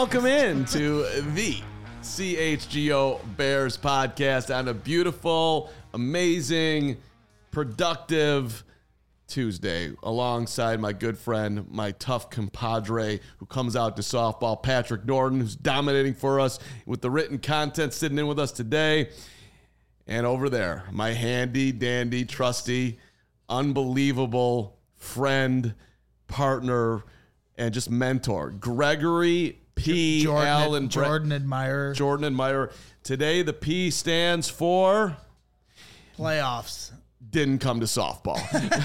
welcome in to the CHGO Bears podcast on a beautiful, amazing, productive Tuesday alongside my good friend, my tough compadre who comes out to softball, Patrick Norton, who's dominating for us with the written content sitting in with us today. And over there, my handy, dandy, trusty, unbelievable friend, partner, and just mentor, Gregory P. Allen. Jordan Admirer. Jordan Admirer. Today, the P stands for... Playoffs. Didn't come to softball.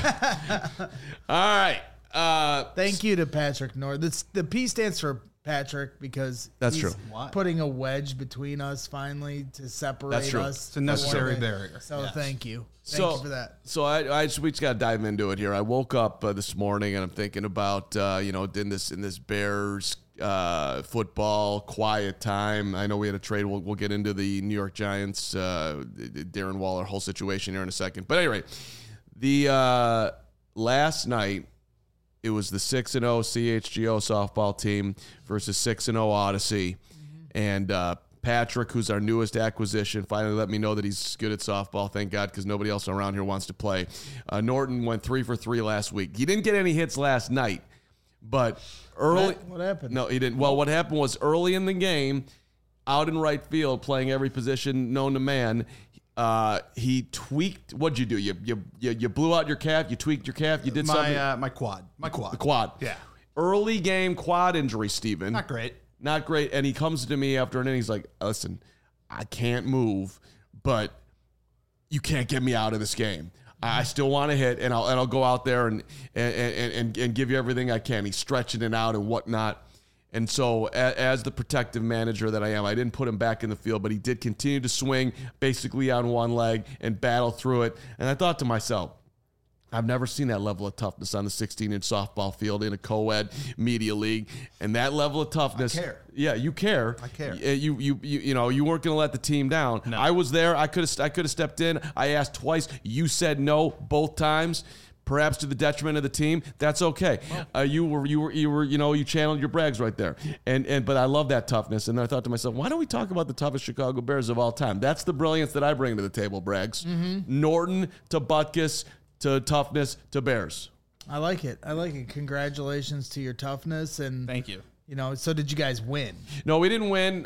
All right. Thank you to Patrick Norton. The P stands for Patrick because That's he's true. Putting a wedge between us finally to separate That's true. us. It's a necessary barrier. So Yes. thank you. Thank you for that. So we just got to dive into it here. I woke up this morning and I'm thinking about, in this Bears football quiet time. I know we had a trade. We'll get into the New York Giants, Darren Waller whole situation here in a second. But anyway, the last night, it was the 6-0 CHGO softball team versus 6-0 Odyssey. And Patrick, who's our newest acquisition, finally let me know that he's good at softball. Thank God, because nobody else around here wants to play. Norton went 3 for 3 last week. He didn't get any hits last night, but early. What happened? No, he didn't. Well, what happened was early in the game, out in right field, playing every position known to man, he tweaked. What'd you do? You blew out your calf. You tweaked your calf. You did something. My quad. The quad. Yeah. Early game quad injury, Steven. Not great. Not great. And he comes to me after an inning. He's like, listen, I can't move, but you can't get me out of this game. I still want to hit, and I'll go out there and give you everything I can. He's stretching it out and whatnot. And so as the protective manager that I am, I didn't put him back in the field, but he did continue to swing basically on one leg and battle through it. And I thought to myself, I've never seen that level of toughness on the 16-inch softball field in a co-ed media league, and that level of toughness. I care. Yeah, you care. I care. You weren't going to let the team down. No. I was there. I could have stepped in. I asked twice. You said no both times. Perhaps to the detriment of the team. That's okay. You channeled your brags right there. But I love that toughness. And I thought to myself, why don't we talk about the toughest Chicago Bears of all time? That's the brilliance that I bring to the table, Brags. Mm-hmm. Norton to Butkus to toughness to Bears. I like it. Congratulations to your toughness. And Thank you. So did you guys win? No, we didn't win.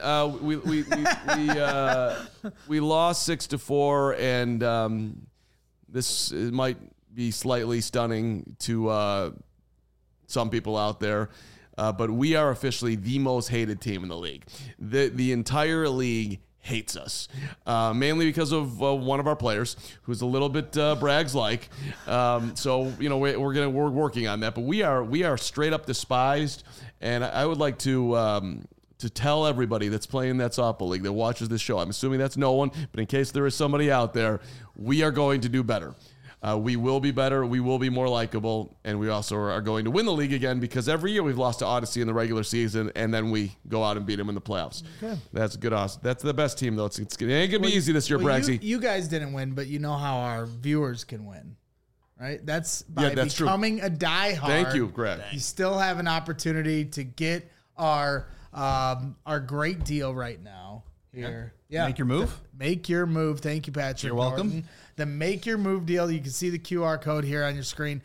We lost 6-4, and this might be slightly stunning to some people out there, but we are officially the most hated team in the league. The entire league hates us, mainly because of one of our players who's a little bit Brags-like. So we're working on that, but we are straight up despised. And I would like to tell everybody that's playing that softball league that watches this show. I'm assuming that's no one, but in case there is somebody out there, we are going to do better. We will be better. We will be more likable, and we also are going to win the league again because every year we've lost to Odyssey in the regular season, and then we go out and beat them in the playoffs. Okay. That's good. That's the best team, though. It ain't going to be easy this year, Bragsy. You guys didn't win, but you know how our viewers can win, right? That's by becoming a diehard. Thank you, Greg. You still have an opportunity to get our great deal right now here. Yeah. Make your move. Make your move. Thank you, Patrick. You're welcome. Norton. The Make Your Move deal. You can see the QR code here on your screen.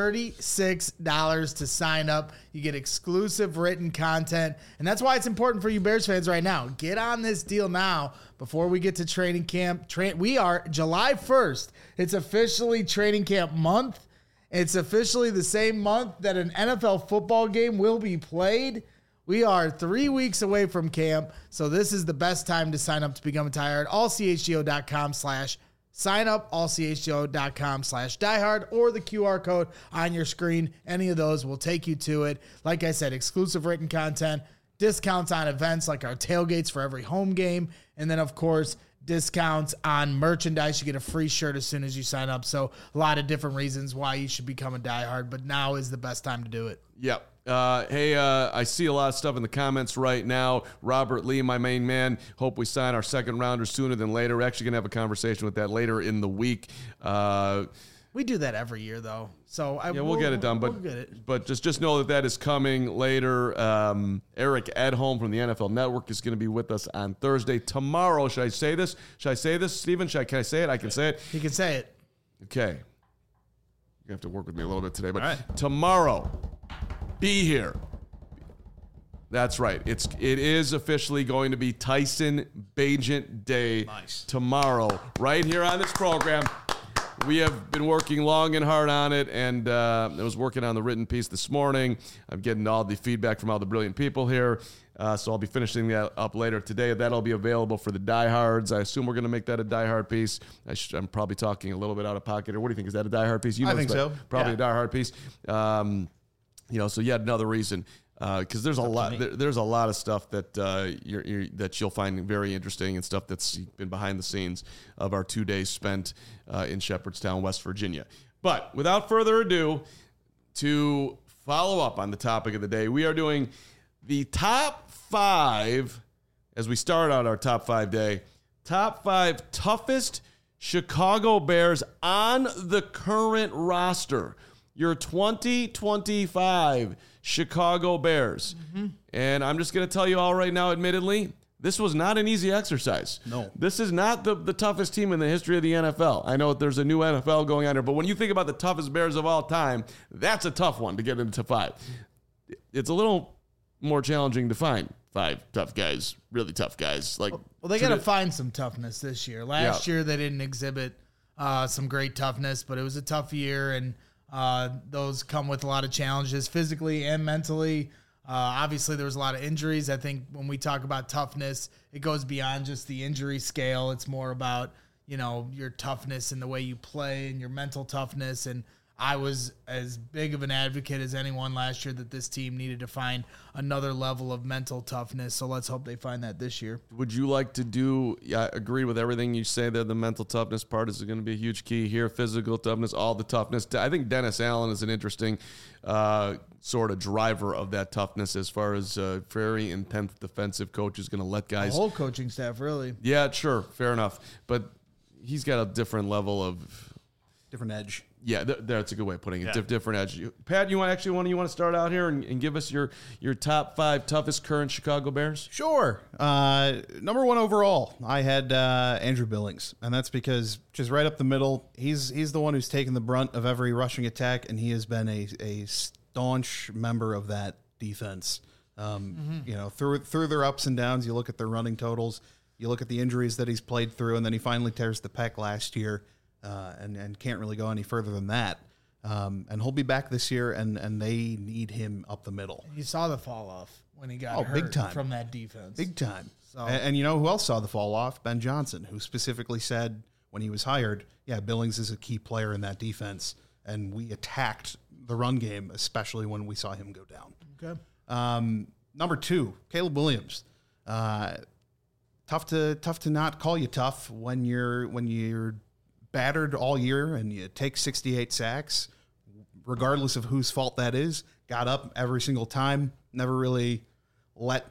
$36 to sign up. You get exclusive written content. And that's why it's important for you Bears fans right now. Get on this deal now before we get to training camp. We are July 1st. It's officially training camp month. It's officially the same month that an NFL football game will be played. We are 3 weeks away from camp, so this is the best time to sign up to become a diehard. allchgo.com/sign up, allchgo.com/diehard, or the QR code on your screen. Any of those will take you to it. Like I said, exclusive written content, discounts on events like our tailgates for every home game, and then, of course, discounts on merchandise. You get a free shirt as soon as you sign up. So a lot of different reasons why you should become a diehard, but now is the best time to do it. Yep. I see a lot of stuff in the comments right now. Robert Lee, my main man, hope we sign our second rounder sooner than later. We're actually going to have a conversation with that later in the week. We do that every year, though. So we'll get it done. But we'll get it. But just know that is coming later. Eric Edholm from the NFL Network is going to be with us on Thursday. Tomorrow, should I say this? Stephen? Can I say it? I can say it. You can say it. Okay. You have to work with me a little bit today. But All right. tomorrow, be here. That's right. It is officially going to be Tyson Bagent Day tomorrow, right here on this program. We have been working long and hard on it, and I was working on the written piece this morning. I'm getting all the feedback from all the brilliant people here, so I'll be finishing that up later today. That'll be available for the diehards. I assume we're going to make that a diehard piece. I'm probably talking a little bit out of pocket, or what do you think? Is that a diehard piece? I think so. Probably a diehard piece. So yet another reason. Because there's a lot, there's a lot of stuff that that you'll find very interesting, and stuff that's been behind the scenes of our 2 days spent in Shepherdstown, West Virginia. But without further ado, to follow up on the topic of the day, we are doing the top 5 as we start out our top 5 day. Top 5 toughest Chicago Bears on the current roster. Your 2025 Chicago Bears. Mm-hmm. And I'm just going to tell you all right now, admittedly, this was not an easy exercise. No. This is not the toughest team in the history of the NFL. I know there's a new NFL going on here, but when you think about the toughest Bears of all time, that's a tough one to get into 5. It's a little more challenging to find 5 tough guys, really tough guys. Well, they got to find some toughness this year. Last year, they didn't exhibit some great toughness, but it was a tough year, and those come with a lot of challenges physically and mentally. Obviously, there was a lot of injuries. I think when we talk about toughness, it goes beyond just the injury scale. It's more about, your toughness and the way you play and your mental toughness. And I was as big of an advocate as anyone last year that this team needed to find another level of mental toughness. So let's hope they find that this year. Would you like to I agree with everything you say there. The mental toughness part is going to be a huge key here. Physical toughness, all the toughness. I think Dennis Allen is an interesting sort of driver of that toughness, as far as very intense defensive coach is going to let guys. The whole coaching staff, really. Yeah, sure. Fair enough. But he's got a different level of. Different edge. Yeah, that's a good way of putting it. Different edge. Pat, you want to start out here and give us your top 5 toughest current Chicago Bears? Sure. Number 1 overall, I had Andrew Billings, and that's because just right up the middle, he's the one who's taken the brunt of every rushing attack, and he has been a staunch member of that defense. Through their ups and downs, you look at their running totals, you look at the injuries that he's played through, and then he finally tears the pec last year. And can't really go any further than that. And he'll be back this year, and they need him up the middle. You saw the fall off when he got hurt big time. From that defense. Big time. So. And you know who else saw the fall off? Ben Johnson, who specifically said when he was hired, Billings is a key player in that defense, and we attacked the run game, especially when we saw him go down. Okay. Number 2, Caleb Williams. Tough to not call you tough when you're battered all year and you take 68 sacks, regardless of whose fault that is. Got up every single time, never really let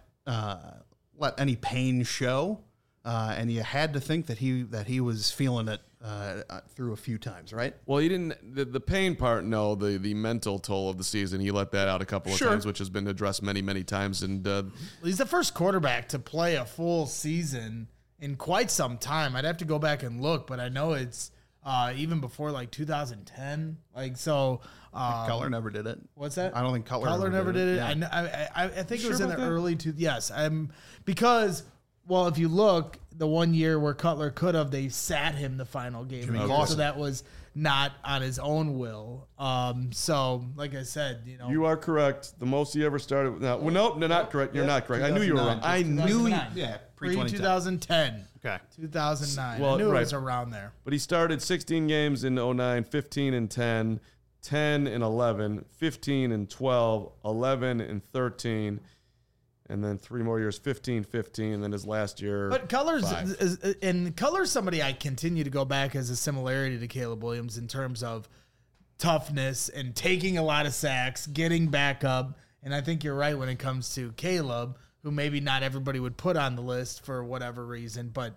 any pain show, and you had to think that he was feeling it through a few times, right? Well, he didn't. The pain part, no. The mental toll of the season, he let that out a couple of times, which has been addressed many times. And he's the first quarterback to play a full season in quite some time. I'd have to go back and look, but I know it's even before 2010. Cutler never did it. What's that? I don't think Cutler never did it. Yeah. I think it was in the early yes. Because if you look, the 1 year where Cutler could have, they sat him the final game, so that was not on his own will. So like I said, you are correct. The most he ever started. No, not correct. You're not correct. I knew you were wrong. I knew you. Yeah, pre-2010. Okay. 2009. I knew it was around there. But he started 16 games in 09, 15 and 10, 10 and 11, 15 and 12, 11 and 13. And then 3 more years, 15, and then his last year. But Cutler's somebody I continue to go back as a similarity to Caleb Williams in terms of toughness and taking a lot of sacks, getting back up. And I think you're right when it comes to Caleb, who maybe not everybody would put on the list for whatever reason. But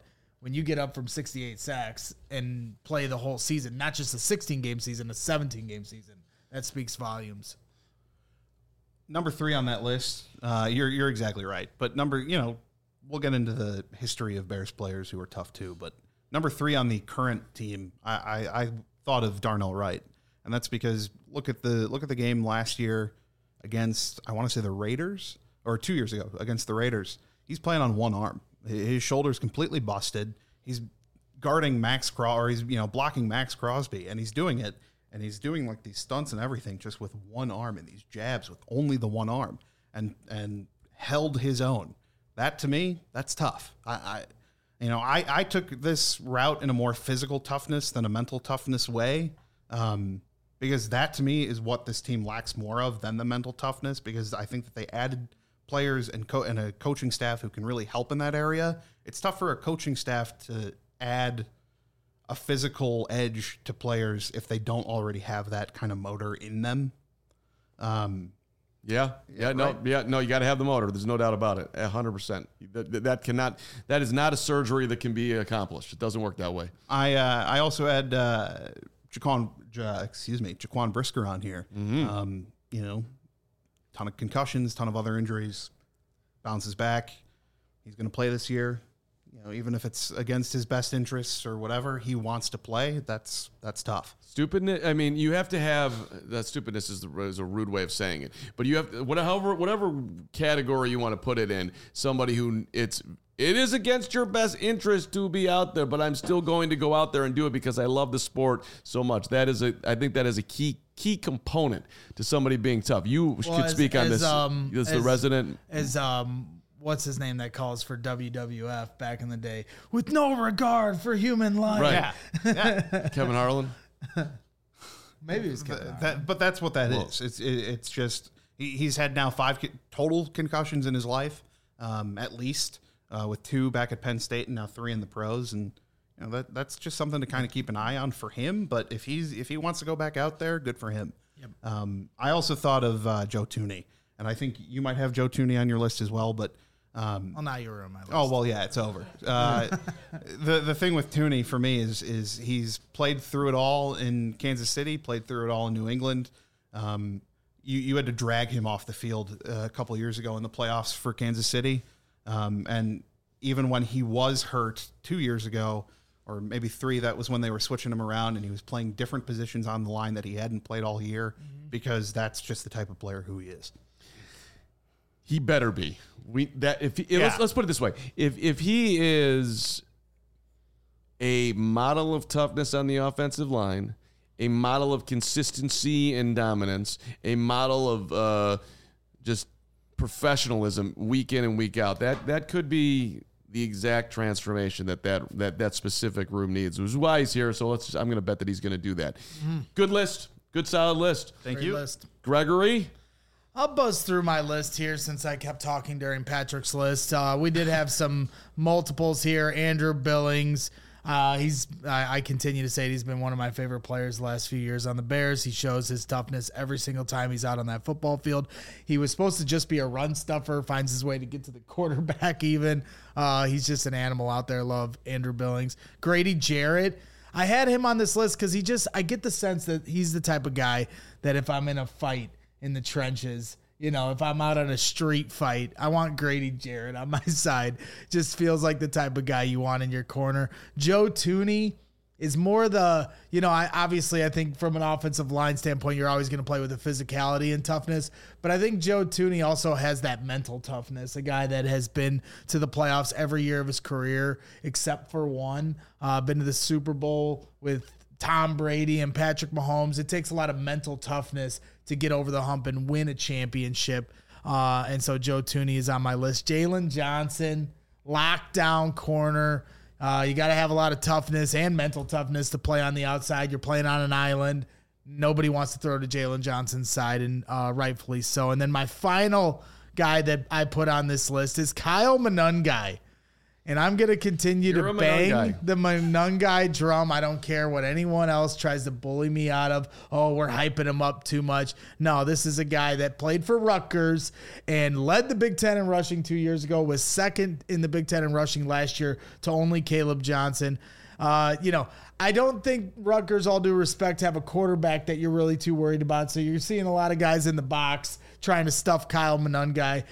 when you get up from 68 sacks and play the whole season, not just a 16-game season, a 17-game season. That speaks volumes. Number 3 on that list, you're exactly right. But we'll get into the history of Bears players who are tough too. But number 3 on the current team, I thought of Darnell Wright, and that's because look at the game last year against, I want to say, the Raiders, or 2 years ago against the Raiders. He's playing on one arm. His shoulder's completely busted. He's guarding he's blocking Max Crosby, and he's doing it. And he's doing like these stunts and everything just with one arm and these jabs with only the one arm and held his own. That to me, that's tough. I took this route in a more physical toughness than a mental toughness way, because that to me is what this team lacks more of than the mental toughness, because I think that they added players and a coaching staff who can really help in that area. It's tough for a coaching staff to add a physical edge to players if they don't already have that kind of motor in them. No, you got to have the motor. There's no doubt about it. 100%. That is not a surgery that can be accomplished. It doesn't work that way. I also had Jaquan Brisker on here. Mm-hmm. Ton of concussions, ton of other injuries, bounces back. He's going to play this year. Even if it's against his best interests or whatever, he wants to play. That's tough. Stupidness. I mean, you have to have that. Stupidness is a rude way of saying it, but you have whatever category you want to put it in. Somebody who it is against your best interest to be out there, but I'm still going to go out there and do it because I love the sport so much. I think that is a key component to somebody being tough. You could speak on this. As the resident. What's his name that calls for WWF back in the day with no regard for human life? Right. Yeah. Kevin Harlan. Maybe it was Kevin Harlan. But that's what that is. It's just he's had now 5 total concussions in his life, at least, with 2 back at Penn State and now 3 in the pros, and that's just something to kind of keep an eye on for him. But if he wants to go back out there, good for him. Yep. I also thought of Joe Thuney, and I think you might have Joe Thuney on your list as well, but. Well, now you were on my list. Oh, well, yeah, it's over. The thing with Thuney for me is he's played through it all in Kansas City, played through it all in New England. You had to drag him off the field a couple of years ago in the playoffs for Kansas City. And even when he was hurt 2 years ago, or maybe 3, that was when they were switching him around and he was playing different positions on the line that he hadn't played all year, because that's just the type of player who he is. He better be. Let's put it this way: if he is a model of toughness on the offensive line, a model of consistency and dominance, a model of just professionalism week in and week out, that could be the exact transformation that specific room needs. Which is why he's here. So I'm going to bet that he's going to do that. Good list, good solid list. Thank Great you, list. Gregory. I'll buzz through my list here since I kept talking during Patrick's list. We did have some multiples here. Andrew Billings. I continue to say he's been one of my favorite players the last few years on the Bears. He shows his toughness every single time he's out on that football field. He was supposed to just be a run stuffer, finds his way to get to the quarterback even. He's just an animal out there. Love Andrew Billings. Grady Jarrett. I had him on this list because I get the sense that he's the type of guy that if I'm in a fight in the trenches, if I'm out on a street fight, I want Grady Jarrett on my side. Just feels like the type of guy you want in your corner. Joe Thuney is more the, I think from an offensive line standpoint, you're always going to play with the physicality and toughness. But I think Joe Thuney also has that mental toughness, a guy that has been to the playoffs every year of his career, except for one, been to the Super Bowl with Tom Brady and Patrick Mahomes. It takes a lot of mental toughness to get over the hump and win a championship. And so Joe Thuney is on my list. Jalen Johnson, lockdown corner. You got to have a lot of toughness and mental toughness to play on the outside. You're playing on an island. Nobody wants to throw to Jalen Johnson's side, and rightfully so. And then my final guy that I put on this list is Kyle Monangai. And I'm going to continue You're to a bang Monangai. the Monangai drum. I don't care what anyone else tries to bully me out of. Oh, we're hyping him up too much. No, this is a guy that played for Rutgers and led the Big Ten in rushing 2 years ago, was second in the Big Ten in rushing last year to only Caleb Johnson. I don't think Rutgers, all due respect, have a quarterback that you're really too worried about. So you're seeing a lot of guys in the box trying to stuff Kyle Monangai,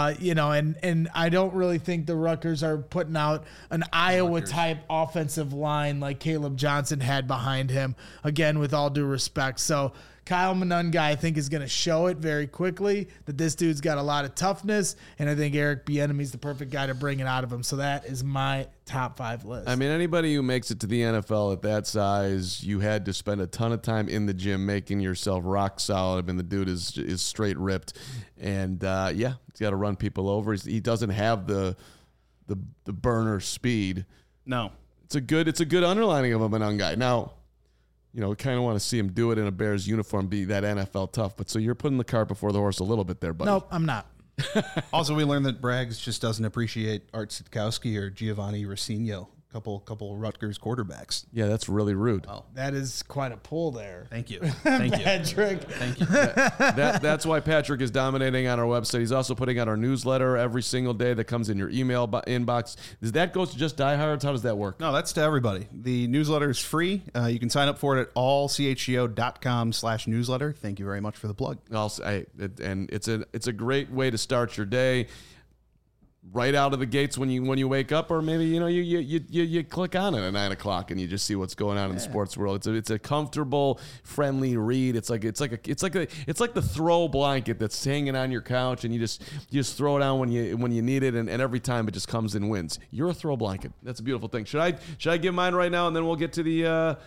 and I don't really think the Rutgers are putting out an Iowa-type offensive line like Caleb Johnson had behind him, again, with all due respect. So Kyle Monangai, I think, is going to show it very quickly that this dude's got a lot of toughness, and I think Eric Bieniemy's the perfect guy to bring it out of him. So that is my top 5 list. I mean, anybody who makes it to the NFL at that size, you had to spend a ton of time in the gym making yourself rock solid. I mean, the dude is straight ripped, and he's got to run people over. He doesn't have the burner speed. No. It's a good underlining of a Monangai. Now, we kind of want to see him do it in a Bears uniform, be that NFL tough. But so you're putting the cart before the horse a little bit there, buddy. Nope, I'm not. Also, we learned that Braggs just doesn't appreciate Art Sitkowski or Giovanni Rossino, couple Rutgers quarterbacks. Yeah, that's really rude. Well, That is quite a pull there. thank you. Thank you. Patrick. Thank you. That's why Patrick is dominating on our website. He's also putting out our newsletter every single day that comes in your email inbox. Does that go to just diehards? How does that work? No, that's to everybody. The newsletter is free. You can sign up for it at allchgo.com/newsletter. Thank you very much for the plug. And it's a great way to start your day. Right out of the gates when you wake up, or maybe you click on it at 9 o'clock and you just see what's going on in the sports world. It's a comfortable, friendly read. It's like the throw blanket that's hanging on your couch, and you just throw it on when you need it, and every time it just comes and wins. You're a throw blanket. That's a beautiful thing. Should I give mine right now, and then we'll get to the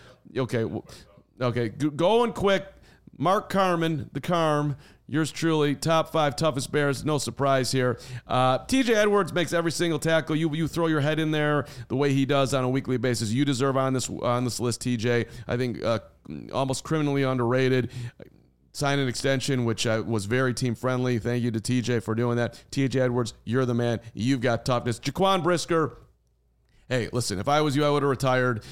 okay. Going quick. Mark Carman, the Carm. Yours truly, top 5 toughest Bears. No surprise here. TJ Edwards makes every single tackle. You throw your head in there the way he does on a weekly basis. You deserve on this list, TJ. I think almost criminally underrated. Sign an extension, which was very team friendly. Thank you to TJ for doing that. TJ Edwards, you're the man. You've got toughness. Jaquan Brisker. Hey, listen, if I was you, I would have retired.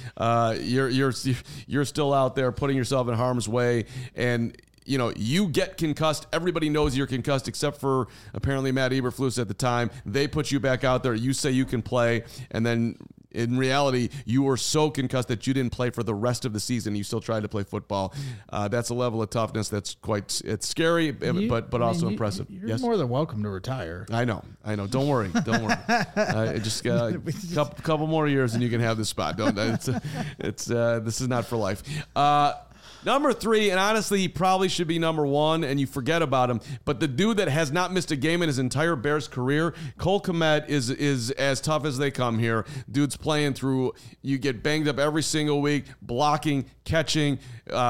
You're still out there putting yourself in harm's way, and you get concussed. Everybody knows you're concussed, except for apparently Matt Eberflus at the time. They put you back out there. You say you can play, and then in reality, you were so concussed that you didn't play for the rest of the season. You still tried to play football. That's a level of toughness that's it's scary, but also impressive. You're more than welcome to retire. I know. Don't worry. Just couple more years and you can have this spot. This is not for life. Number 3, and honestly, he probably should be number 1, and you forget about him. But the dude that has not missed a game in his entire Bears career, Cole Kmet, is as tough as they come here. Dude's playing through. You get banged up every single week, blocking, catching,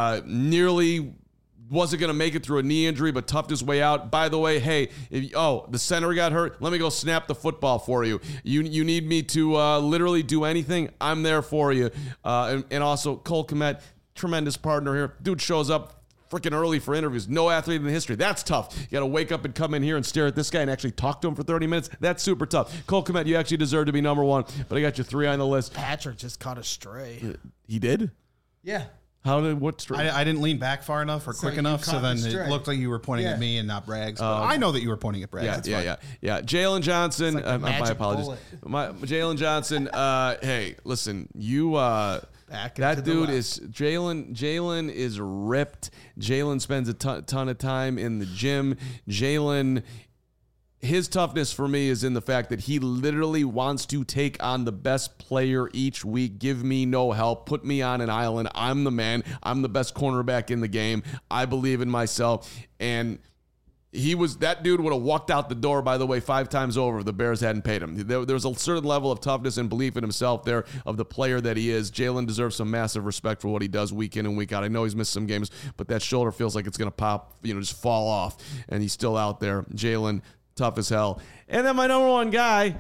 nearly wasn't going to make it through a knee injury, but toughed his way out. By the way, hey, the center got hurt. Let me go snap the football for you. You need me to literally do anything? I'm there for you. And also, Cole Kmet, tremendous partner here. Dude shows up freaking early for interviews. No athlete in the history. That's tough. You got to wake up and come in here and stare at this guy and actually talk to him for 30 minutes. That's super tough. Cole Kmet, you actually deserve to be number 1, but I got you 3 on the list. Patrick just caught a stray. He did? Yeah. What stray? I didn't lean back far enough or quick enough, so then it looked like you were pointing at me and not Braggs. But I know that you were pointing at Braggs. Yeah. Jalen Johnson. Like my apologies. Jalen Johnson. Hey, listen, you. That dude is Jalen is ripped. Jalen spends a ton of time in the gym. Jalen, his toughness for me is in the fact that he literally wants to take on the best player each week. Give me no help. Put me on an island. I'm the man. I'm the best cornerback in the game. I believe in myself. And that dude would have walked out the door, by the way, 5 times over if the Bears hadn't paid him. There's a certain level of toughness and belief in himself there of the player that he is. Jalen deserves some massive respect for what he does week in and week out. I know he's missed some games, but that shoulder feels like it's going to pop, just fall off, and he's still out there. Jalen, tough as hell. And then my number 1 guy,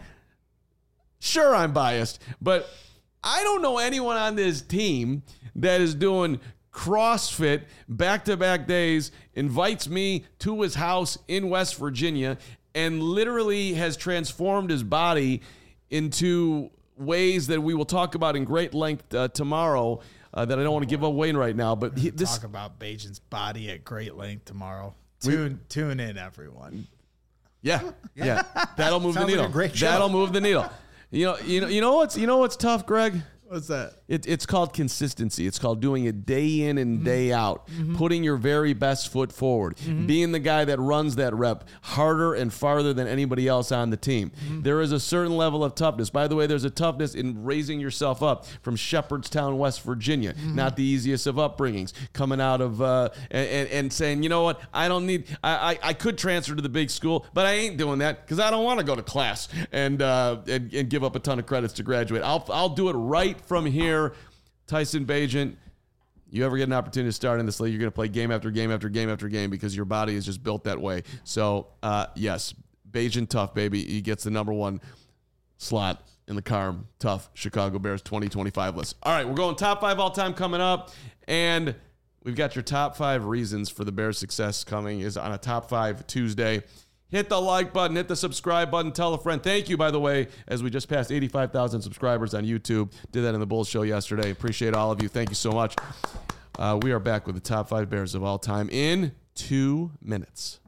sure, I'm biased, but I don't know anyone on this team that is doing CrossFit back-to-back days, invites me to his house in West Virginia, and literally has transformed his body into ways that we will talk about in great length tomorrow that I don't want to give away right now. But talk about Bajan's body at great length tomorrow. Tune in, everyone. Yeah. That'll move the Sounds like needle. a great show. That'll move the needle. You know what's tough, Greg? What's that? It's called consistency. It's called doing it day in and day out, putting your very best foot forward, being the guy that runs that rep harder and farther than anybody else on the team. There is a certain level of toughness. By the way, there's a toughness in raising yourself up from Shepherdstown, West Virginia. Not the easiest of upbringings. Coming out of and saying, you know what, I could transfer to the big school, but I ain't doing that because I don't want to go to class and give up a ton of credits to graduate. I'll do it right from here. Tyson Bagent, you ever get an opportunity to start in this league, you're going to play game after game after game after game because your body is just built that way. So, yes, Bagent tough, baby. He gets the number 1 slot in the Carm Tough Chicago Bears 2025 list. All right, we're going top 5 all-time coming up, and we've got your top 5 reasons for the Bears' success coming is on a top 5 Tuesday. Hit the like button, hit the subscribe button, tell a friend. Thank you, by the way, as we just passed 85,000 subscribers on YouTube. Did that in the Bulls show yesterday. Appreciate all of you. Thank you so much. We are back with the top 5 Bears of all time in 2 minutes.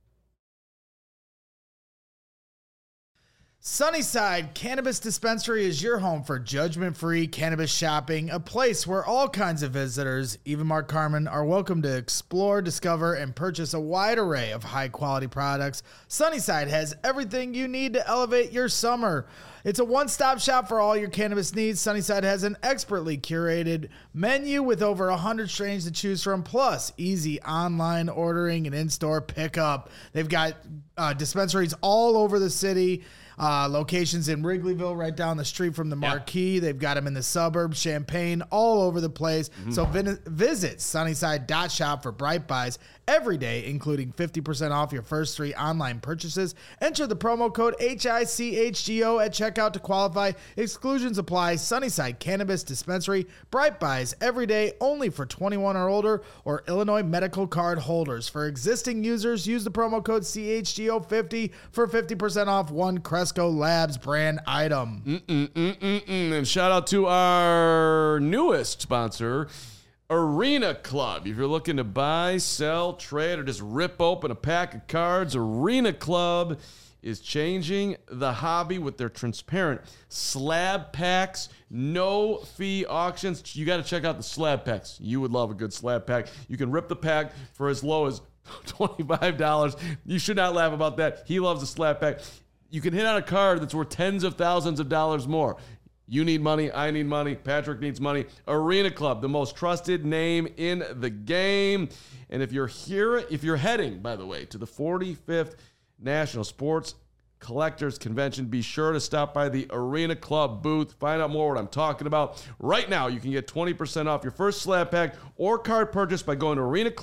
Sunnyside Cannabis Dispensary is your home for judgment-free cannabis shopping, a place where all kinds of visitors, even Mark Carman, are welcome to explore, discover, and purchase a wide array of high-quality products. Sunnyside has everything you need to elevate your summer. It's a one-stop shop for all your cannabis needs. Sunnyside has an expertly curated menu with over 100 strains to choose from, plus easy online ordering and in-store pickup. They've got dispensaries all over the city. Locations in Wrigleyville, right down the street from the Marquee. They've got them in the suburbs, Champaign, all over the place. So visit sunnyside.shop for Bright Buys every day, including 50% off your first 3 online purchases. Enter the promo code HICHGO at checkout to qualify. Exclusions apply. Sunnyside Cannabis Dispensary. Bright Buys every day, only for 21 or older or Illinois medical card holders. For existing users, use the promo code CHGO50 for 50% off one Cresco Labs brand item. And shout out to our newest sponsor, Arena Club. If you're looking to buy, sell, trade, or just rip open a pack of cards, Arena Club is changing the hobby with their transparent slab packs, no fee auctions. You got to check out the slab packs. You would love a good slab pack. You can rip the pack for as low as $25. You should not laugh about that. He loves the slab pack. You can hit on a card that's worth tens of thousands of dollars more. You need money. I need money. Patrick needs money. Arena Club, the most trusted name in the game. And if you're heading, by the way, to the 45th National Sports Collectors Convention, be sure to stop by the Arena Club booth. Find out more what I'm talking about. Right now, you can get 20% off your first slab pack or card purchase by going to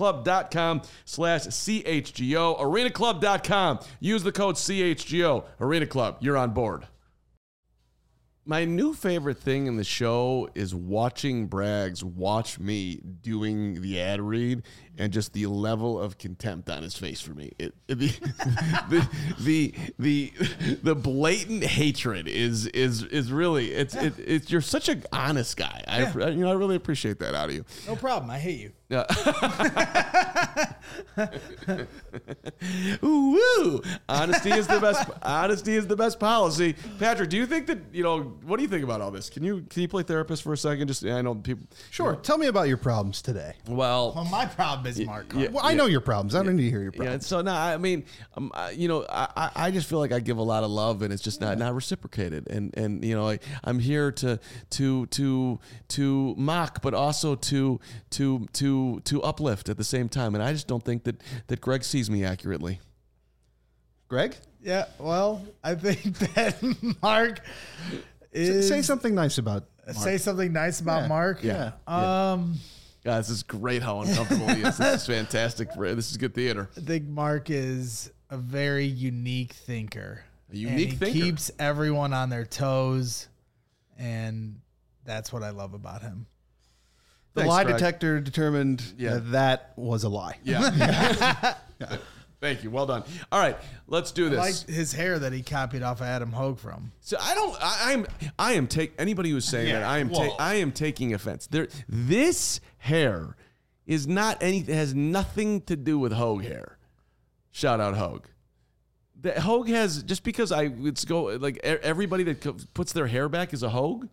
arenaclub.com/CHGO. arenaclub.com. Use the code CHGO. Arena Club, you're on board. My new favorite thing in the show is watching Braggs watch me doing the ad read and just the level of contempt on his face for me. The blatant hatred is really it's you're such an honest guy. I really appreciate that out of you. No problem. I hate you. Ooh, honesty is the best. Honesty is the best policy. Patrick, do you think that what do you think about all this? Can you play therapist for a second? Just I know people. Sure. Tell me about your problems today. Well, my problem is Mark. Well, I know your problems. I don't need to hear your problems. Yeah. So no, I mean, I just feel like I give a lot of love and it's just not reciprocated. And I'm here to mock, but also to uplift at the same time. And I just don't think that Greg sees me accurately. Greg? Yeah. Well, I think that Mark is. Say something nice about Mark. Say something nice about Mark. Yeah. Yeah, this is great how uncomfortable he is. This is fantastic. This is good theater. I think Mark is a very unique thinker. He keeps everyone on their toes, and that's what I love about him. The lie detector determined that was a lie. Yeah. Thank you. Well done. All right, let's do this. I like his hair that he copied off of Adam Hogue from. So I am anybody who's saying that I am taking offense. This hair is not anything, has nothing to do with Hogue hair. Shout out Hogue. The Hogue has, just because everybody that puts their hair back is a Hogue.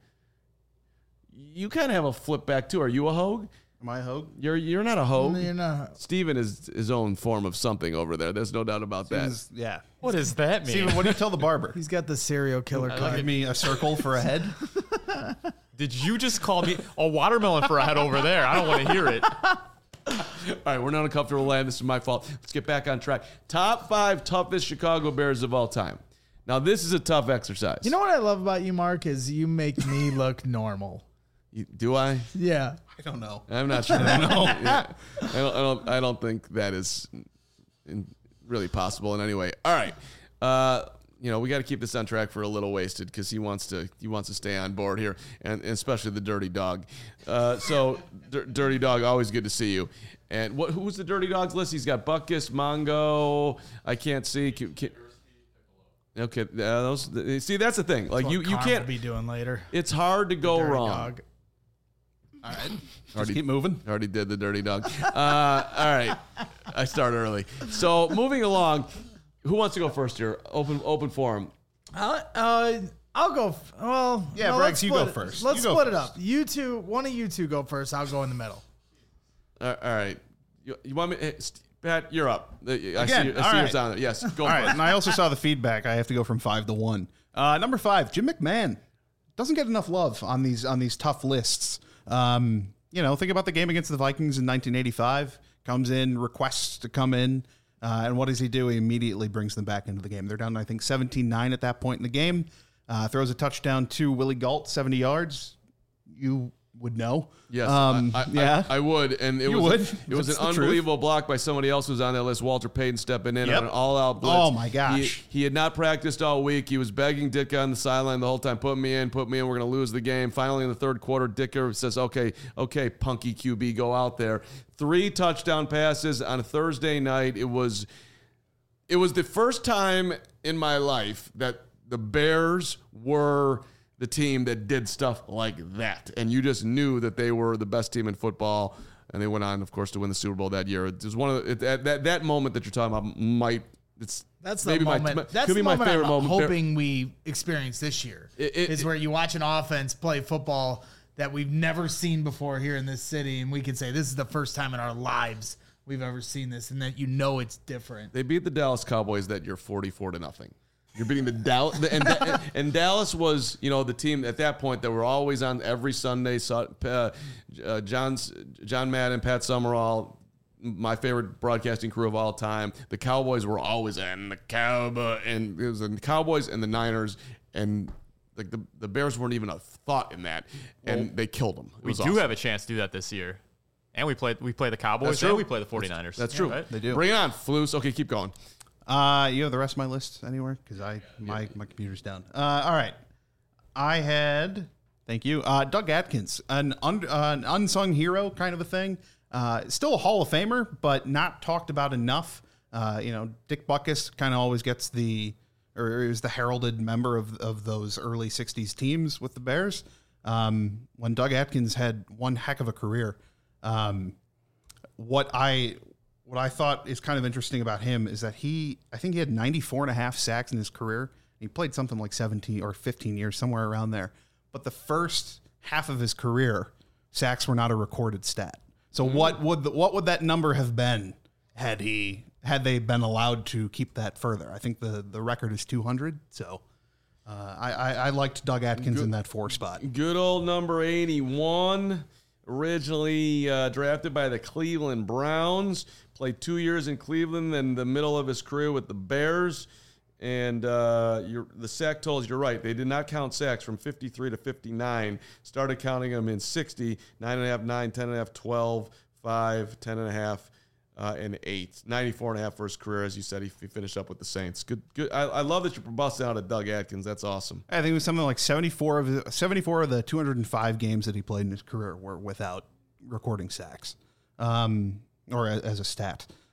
You kind of have a flip back too. Are you a Hogue? Am I a Hogue? You're not a Hogue. No, you're not. Steven is his own form of something over there. There's no doubt about that. Yeah. What does that mean? Steven, what do you tell the barber? He's got the serial killer cut. Give me a circle for a head. Did you just call me a watermelon for a head over there? I don't want to hear it. All right, we're not uncomfortable land. This is my fault. Let's get back on track. Top 5 toughest Chicago Bears of all time. Now, this is a tough exercise. You know what I love about you, Mark, is you make me look normal. Do I? Yeah. I don't know. I'm not sure. I know. I don't think that is really possible in any way. All right. We got to keep this on track for a little wasted because he wants to stay on board here, and especially the Dirty Dog. Dirty Dog, always good to see you. And who's the Dirty Dog's list? He's got Butkus, Mongo. I can't see. Okay, see, that's the thing. Like you can't be doing later. It's hard to go wrong. Dog. All right. Just keep moving. Already did the Dirty Dog. All right. I start early. So moving along, who wants to go first here? Open forum. I'll go. Yeah, no, Braggs, you go first. Let's You go split it first. up. You two, one of you two go first. I'll go in the middle. All right. You want me? Hey, Pat, you're up. I see all yours right. on there. Yes, go All for right, it. and I also saw the feedback. I have to go from 5 to 1. Number 5, Jim McMahon doesn't get enough love on these tough lists. Think about the game against the Vikings in 1985. Comes in, requests to come in, and what does he do? He immediately brings them back into the game. They're down, I think, 17-9 at that point in the game. Throws a touchdown to Willie Gault, 70 yards. You would know. Yes, yeah. I would, and it was an the unbelievable block by somebody else who was on that list. Walter Payton stepping in Yep. on an all-out blitz. Oh, my gosh. He had not practiced all week. He was begging Ditka on the sideline the whole time, put me in, we're going to lose the game. Finally, in the third quarter, Ditka says, okay, punky QB, go out there. 3 touchdown passes on a Thursday night. It was the first time in my life that the Bears were the team that did stuff like that. And you just knew that they were the best team in football. And they went on, of course, to win the Super Bowl that year. It was one of that moment that you're talking about That's the maybe moment. That's could the be my moment favorite I'm moment. hoping we experience this year. Is where you watch an offense play football that we've never seen before here in this city, and we can say this is the first time in our lives we've ever seen this, and that it's different. They beat the Dallas Cowboys that year 44-0. You're beating the Dallas, and Dallas was, the team at that point that were always on every Sunday. John Madden, Pat Summerall, my favorite broadcasting crew of all time. The Cowboys were always in and it was the Cowboys and the Niners, and like the Bears weren't even a thought in that, and they killed them. We do have a chance to do that this year, and we play the Cowboys and we play the 49ers. That's true. Right? They do. Bring it on, Flus. Okay, keep going. You have the rest of my list anywhere? Because my computer's down. All right. I had, thank you, Doug Atkins, an unsung hero kind of a thing. Still a Hall of Famer, but not talked about enough. Dick Butkus kind of always gets is the heralded member of those early 60s teams with the Bears. When Doug Atkins had one heck of a career, what I thought is kind of interesting about him is that I think he had 94.5 sacks in his career. He played something like 17 or 15 years, somewhere around there. But the first half of his career, sacks were not a recorded stat. So what would that number have been had they been allowed to keep that further? I think the record is 200. So I liked Doug Atkins in that 4 spot. Good old number 81. Originally drafted by the Cleveland Browns, played 2 years in Cleveland, then the middle of his career with the Bears. And the sack totals, you're right. They did not count sacks from 53 to 59. Started counting them in 60, 9.5, 9, 10.5, 12, 5, 10.5, and 8. 94.5 for his career. As you said, he finished up with the Saints. Good. I love that you're busting out at Doug Atkins. That's awesome. I think it was something like 74 of the 205 games that he played in his career were without recording sacks, or as a stat.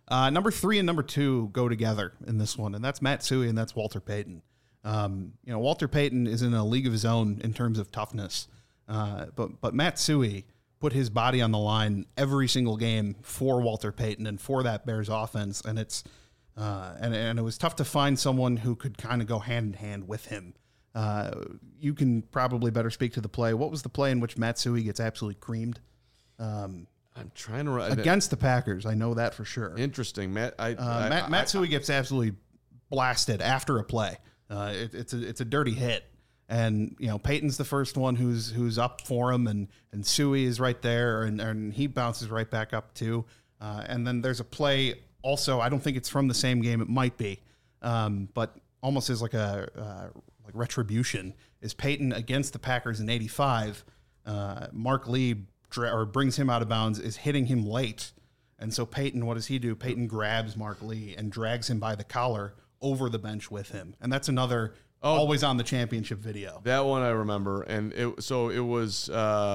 Number 3 and number 2 go together in this one, and that's Matsui and that's Walter Payton. Walter Payton is in a league of his own in terms of toughness, but Matsui put his body on the line every single game for Walter Payton and for that Bears offense, and it's and it was tough to find someone who could kind of go hand in hand with him. You can probably better speak to the play. What was the play in which Matsui gets absolutely creamed? I'm trying to Against the Packers, I know that for sure. Interesting, Matt. Matsui gets absolutely blasted after a play. It's a dirty hit, and Peyton's the first one who's up for him, and Suey is right there, and he bounces right back up too. And then there's a play also. I don't think it's from the same game. It might be, but almost as like a like retribution is Peyton against the Packers in '85. Mark Lee brings him out of bounds, is hitting him late. And so Peyton, what does he do? Peyton grabs Mark Lee and drags him by the collar over the bench with him. And that's another always on the championship video. That one I remember. And it was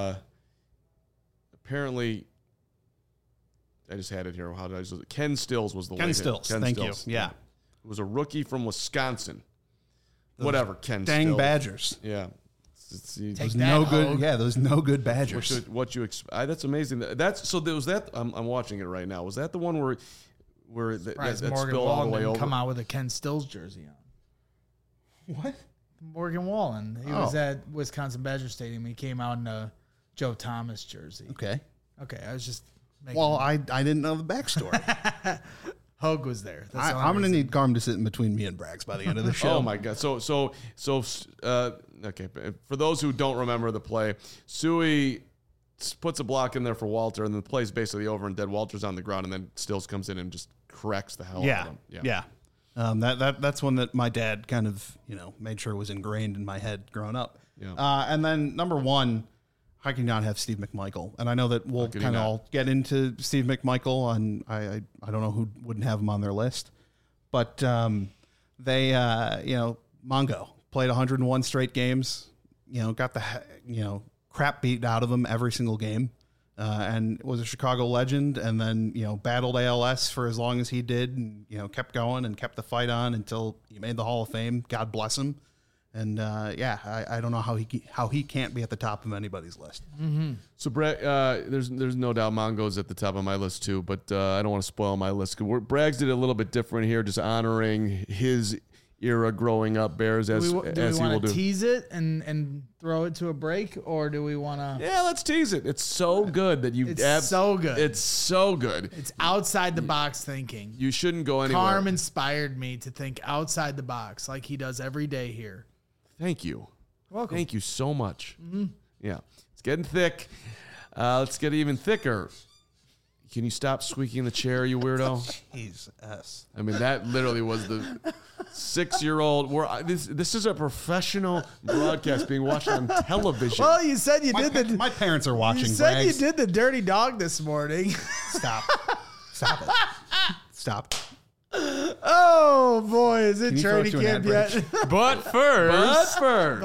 apparently, I just had it here. How did I use it? Ken Stills was the Ken Stills. Thank you. Yeah. It was a rookie from Wisconsin. Whatever, Ken dang Stills. Badgers. Yeah. Take that, good. Yeah, those no good Badgers. What you expect? That's amazing. That's so. There was that. I'm watching it right now. Was that the one where that Morgan spilled all the Wallen way didn't over? come out with a Ken Stills jersey on. What? Morgan Wallen. He was at Wisconsin Badger Stadium. He came out in a Joe Thomas jersey. Okay. I was just making Well, I didn't know the backstory. Hogue was there. That's the only I'm going to reason. need Carm to sit in between me and Braggs by the end of the show. Oh my God! So okay. For those who don't remember the play, Suey puts a block in there for Walter, and the play's basically over and dead. Walter's on the ground, and then Stills comes in and just corrects the hell out of him. Yeah. That's one that my dad kind of made sure was ingrained in my head growing up. Yeah. And then number 1, how can you not have Steve McMichael? And I know that we'll kind of all get into Steve McMichael, and I don't know who wouldn't have him on their list, but they Mongo played 101 straight games, got the crap beat out of him every single game, and was a Chicago legend, and then battled ALS for as long as he did, and kept going and kept the fight on until he made the Hall of Fame. God bless him. And I don't know how he can't be at the top of anybody's list. Mm-hmm. So Bragg, there's no doubt Mongo's at the top of my list too, but I don't want to spoil my list. Braggs did it a little bit different here, just honoring his era growing up Bears as do we he will want do. to tease it and throw it to a break, or do we want to? Yeah, let's tease it. It's so good that you. It's so good. It's so good. It's outside the box thinking. You shouldn't go anywhere. Carm inspired me to think outside the box, like he does every day here. Thank you. Welcome. Thank you so much. Mm-hmm. Yeah, it's getting thick. Let's get even thicker. Can you stop squeaking the chair, you weirdo? Jesus. I mean, that literally was the 6-year-old. This is a professional broadcast being watched on television. Well, you said you did My parents are watching. You said Braggs. you did the dirty dog this morning. Stop it. Stop. Oh boy, is it Can you throw it training to an camp ad yet? But first,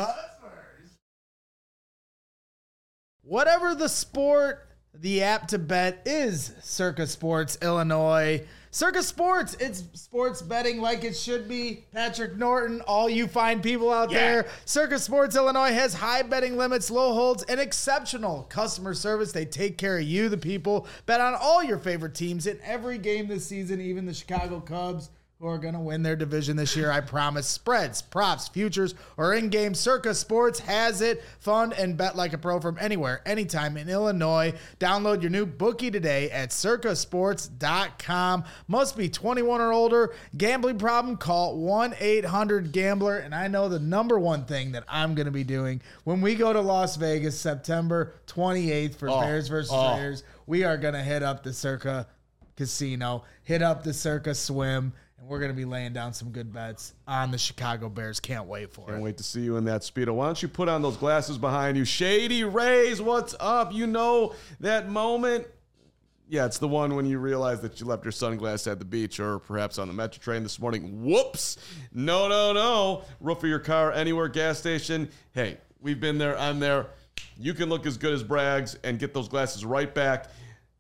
Whatever the sport, the app to bet is Circa Sports Illinois. Circa Sports, it's sports betting like it should be. Patrick Norton, all you fine people out there. Circa Sports Illinois has high betting limits, low holds, and exceptional customer service. They take care of you, the people. Bet on all your favorite teams in every game this season, even the Chicago Cubs, who are going to win their division this year, I promise. Spreads, props, futures, or in-game, Circa Sports has it. Fun and bet like a pro from anywhere, anytime in Illinois. Download your new bookie today at circasports.com. Must be 21 or older. Gambling problem? Call 1-800-GAMBLER. And I know the number one thing that I'm going to be doing when we go to Las Vegas September 28th for Bears versus Raiders, we are going to hit up the Circa Casino, hit up the Circa Swim, and we're going to be laying down some good bets on the Chicago Bears. Can't wait for it. Can't wait to see you in that Speedo. Why don't you put on those glasses behind you? Shady Rays, what's up? You know that moment? Yeah, it's the one when you realize that you left your sunglasses at the beach or perhaps on the Metro train this morning. Whoops. No. Roof of your car, anywhere, gas station. Hey, we've been there. I'm there. You can look as good as Braggs and get those glasses right back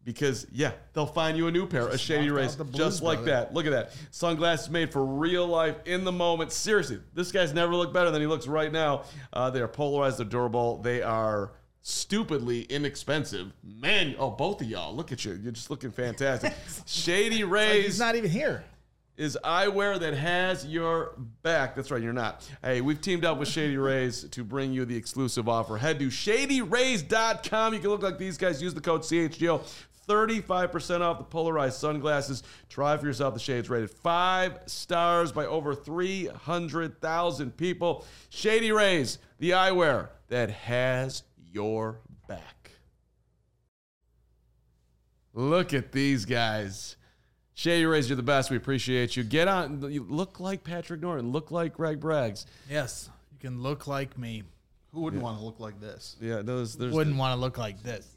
Because, yeah, they'll find you a new pair of Shady Rays the Blues just like Brother. that. Look at that. Sunglasses made for real life in the moment. Seriously, this guy's never looked better than he looks right now. They are polarized. They're durable. They are stupidly inexpensive. Man, both of y'all. Look at you. You're just looking fantastic. Shady Rays. He's not even here. Is eyewear that has your back. That's right, you're not. Hey, we've teamed up with Shady Rays to bring you the exclusive offer. Head to shadyrays.com. You can look like these guys. Use the code CHGO. 35% off the polarized sunglasses. Try for yourself. The shades rated 5 stars by over 300,000 people. Shady Rays, the eyewear that has your back. Look at these guys. Shady Rays, you're the best. We appreciate you. Get on. You look like Patrick Norton. Look like Greg Braggs. Yes, you can look like me. Who wouldn't want to look like this? Yeah, there's. Wouldn't want to look like this.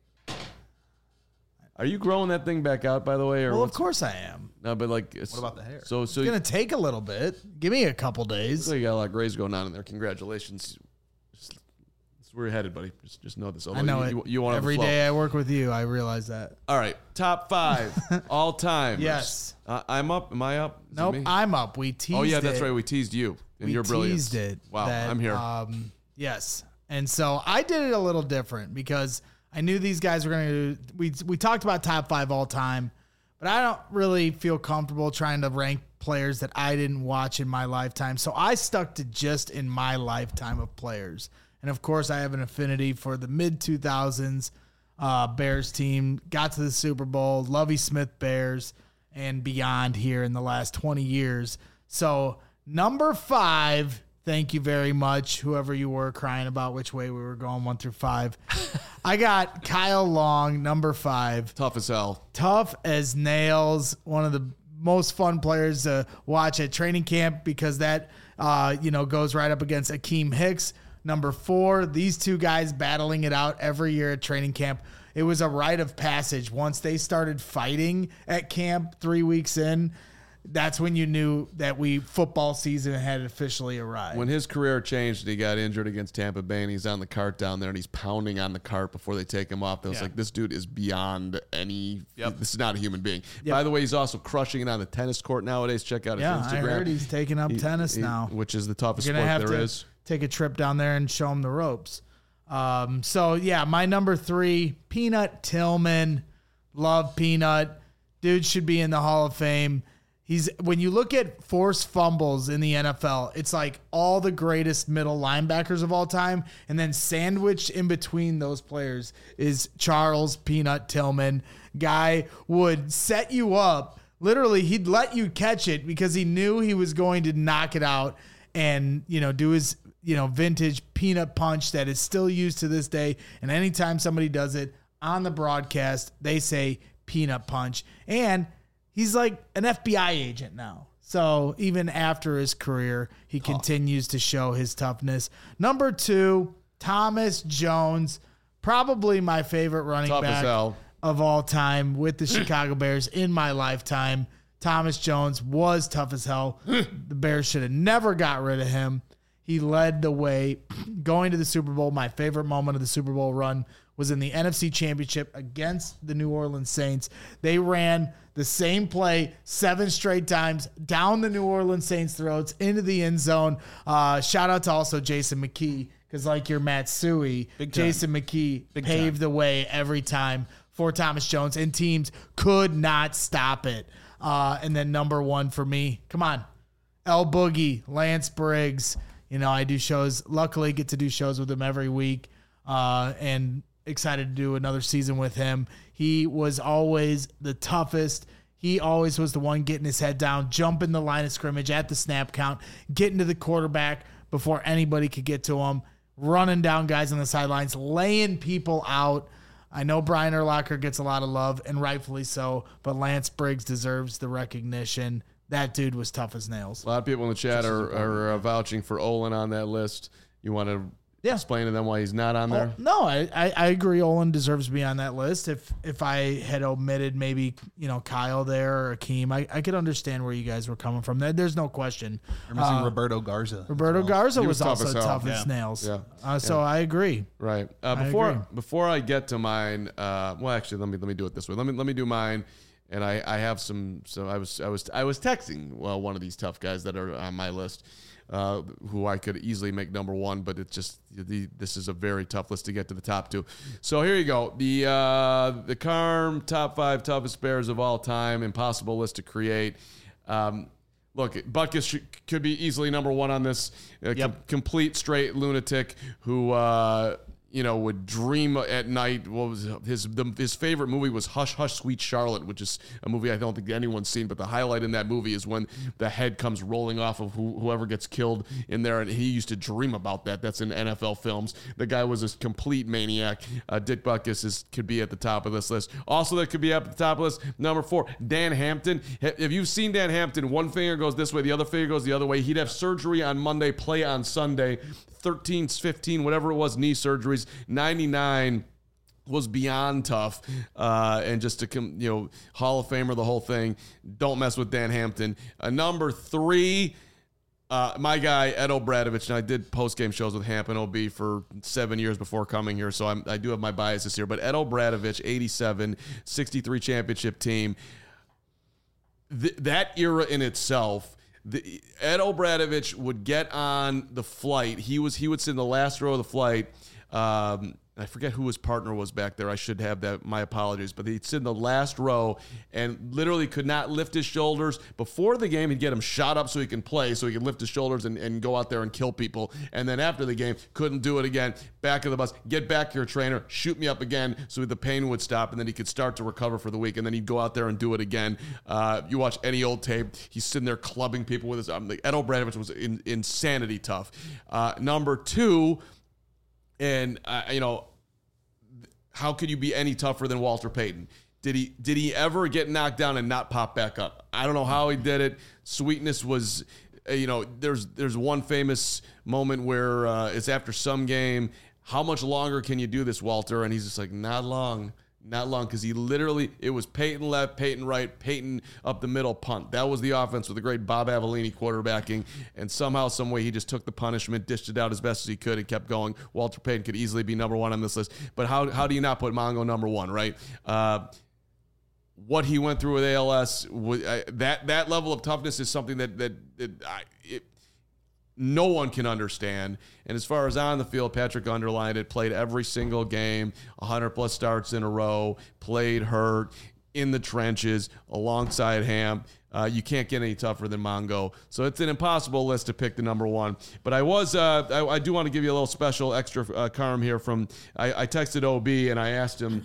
Are you growing that thing back out, by the way? Or Well, of what's- course I am. No, but like. What about the hair? So It's going to take a little bit. Give me a couple you days. got a lot of grays going on in there. Congratulations. That's where you're headed, buddy. Just know this. I know you want Every day I work with you, I realize that. All right, top 5 all time. Yes. I'm up. Am I up? Is it Nope, me? I'm up. We teased it. Oh yeah, that's right. We teased you and We your brilliance. teased it. Wow, that, I'm here. Yes. And so I did it a little different because I knew these guys were going to. We talked about top 5 all time, but I don't really feel comfortable trying to rank players that I didn't watch in my lifetime. So I stuck to just in my lifetime of players. And of course, I have an affinity for the mid 2000s Bears team. Got to the Super Bowl, Lovie Smith Bears, and beyond here in the last 20 years. So number 5. Thank you very much, whoever you were crying about which way we were going, 1 through 5. I got Kyle Long, number 5. Tough as hell. Tough as nails. One of the most fun players to watch at training camp because that, goes right up against Akeem Hicks. Number 4, these two guys battling it out every year at training camp. It was a rite of passage. Once they started fighting at camp 3 weeks in, that's when you knew that football season had officially arrived. When his career changed and he got injured against Tampa Bay and he's on the cart down there and he's pounding on the cart before they take him off, I was like, this dude is beyond any. This is not a human being. By the way, he's also crushing it on the tennis court nowadays. Check out his Instagram. I heard he's taking up tennis now, which is the toughest You're sport gonna have there to is. take a trip down there and show him the ropes. My number 3, Peanut Tillman. Love Peanut. Dude should be in the Hall of Fame. When you look at forced fumbles in the NFL, it's like all the greatest middle linebackers of all time, and then sandwiched in between those players is Charles Peanut Tillman. Guy would set you up. Literally, he'd let you catch it because he knew he was going to knock it out and, do his, vintage peanut punch that is still used to this day. And anytime somebody does it on the broadcast, they say peanut punch. And he's like an FBI agent now. So even after his career, he continues to show his toughness. Number 2, Thomas Jones, probably my favorite running Tough as back hell. of all time with the Chicago Bears in my lifetime. Thomas Jones was tough as hell. The Bears should have never got rid of him. He led the way going to the Super Bowl. My favorite moment of the Super Bowl run was in the NFC Championship against the New Orleans Saints. They ran the same play 7 straight times down the New Orleans Saints' throats into the end zone. Shout out to also Jason McKee, because like your Matsui, Jason McKee paved the way every time for Thomas Jones, and teams could not stop it. And then number 1 for me, come on, El Boogie, Lance Briggs. I do shows, luckily get to do shows with him every week, and excited to do another season with him. He was always the toughest. He always was the one getting his head down, jumping the line of scrimmage at the snap count, getting to the quarterback before anybody could get to him, running down guys on the sidelines, laying people out. I know Brian Urlacher gets a lot of love, and rightfully so, but Lance Briggs deserves the recognition. That dude was tough as nails. A lot of people in the chat are vouching for Olin on that list. You want to Yeah. explain to them why he's not on there? No, I agree. Olin deserves to be on that list. If I had omitted maybe Kyle there or Akeem, I could understand where you guys were coming from. There's no question. We're missing Roberto Garza. Roberto Garza He was was tough also as hell. tough as Yeah. nails. Yeah. So I agree. Right. agree. Before I get to mine, well, actually, let me do it this way. Let me do mine, and I have some. So I was texting one of these tough guys that are on my list, who I could easily make number one, but it's just this is a very tough list to get to the top two. So here you go. The Carm top 5 toughest Bears of all time. Impossible list to create. Look, Butkus could be easily number one on this. Complete straight lunatic who would dream at night. What was his favorite movie was Hush Hush Sweet Charlotte, which is a movie I don't think anyone's seen. But the highlight in that movie is when the head comes rolling off of whoever gets killed in there, and he used to dream about that. That's in NFL films. The guy was a complete maniac. Dick Butkus could be at the top of this list. Also, that could be up at the top of this. Number 4, Dan Hampton. If you've seen Dan Hampton, one finger goes this way, the other finger goes the other way. He'd have surgery on Monday, play on Sunday. 13, 15, whatever it was, knee surgeries. 99 was beyond tough, and just to Hall of Famer, the whole thing. Don't mess with Dan Hampton. Number 3, my guy Ed O'Bradovich. And I did post-game shows with Hamp and OB for 7 years before coming here, so I do have my biases here. But Ed O'Bradovich, 87, 63 championship team. That era in itself. Ed O'Bradovich would get on the flight. He would sit in the last row of the flight. I forget who his partner was back there. I should have that. My apologies. But he'd sit in the last row and literally could not lift his shoulders. Before the game, he'd get him shot up so he can play, so he could lift his shoulders and go out there and kill people. And then after the game, couldn't do it again. Back of the bus. Get back to your trainer. Shoot me up again so the pain would stop, and then he could start to recover for the week. And then he'd go out there and do it again. You watch any old tape, he's sitting there clubbing people with his arm. Ed O'Bradovich was insanity tough. Number 2, and how could you be any tougher than Walter Payton? Did he ever get knocked down and not pop back up? I don't know how he did it. Sweetness was, there's one famous moment where it's after some game. How much longer can you do this, Walter? And he's just like, not long. Not long, because it was Peyton left, Peyton right, Peyton up the middle, punt. That was the offense with the great Bob Avellini quarterbacking, and somehow, some way, he just took the punishment, dished it out as best as he could, and kept going. Walter Payton could easily be number 1 on this list, but how do you not put Mongo number 1, right? What he went through with ALS, that level of toughness is something that no one can understand. And as far as on the field, Patrick underlined it, played every single game, 100-plus starts in a row, played hurt, in the trenches, alongside Hamp. You can't get any tougher than Mongo. So it's an impossible list to pick the number 1. But I do want to give you a little special extra Carm here I texted OB and I asked him,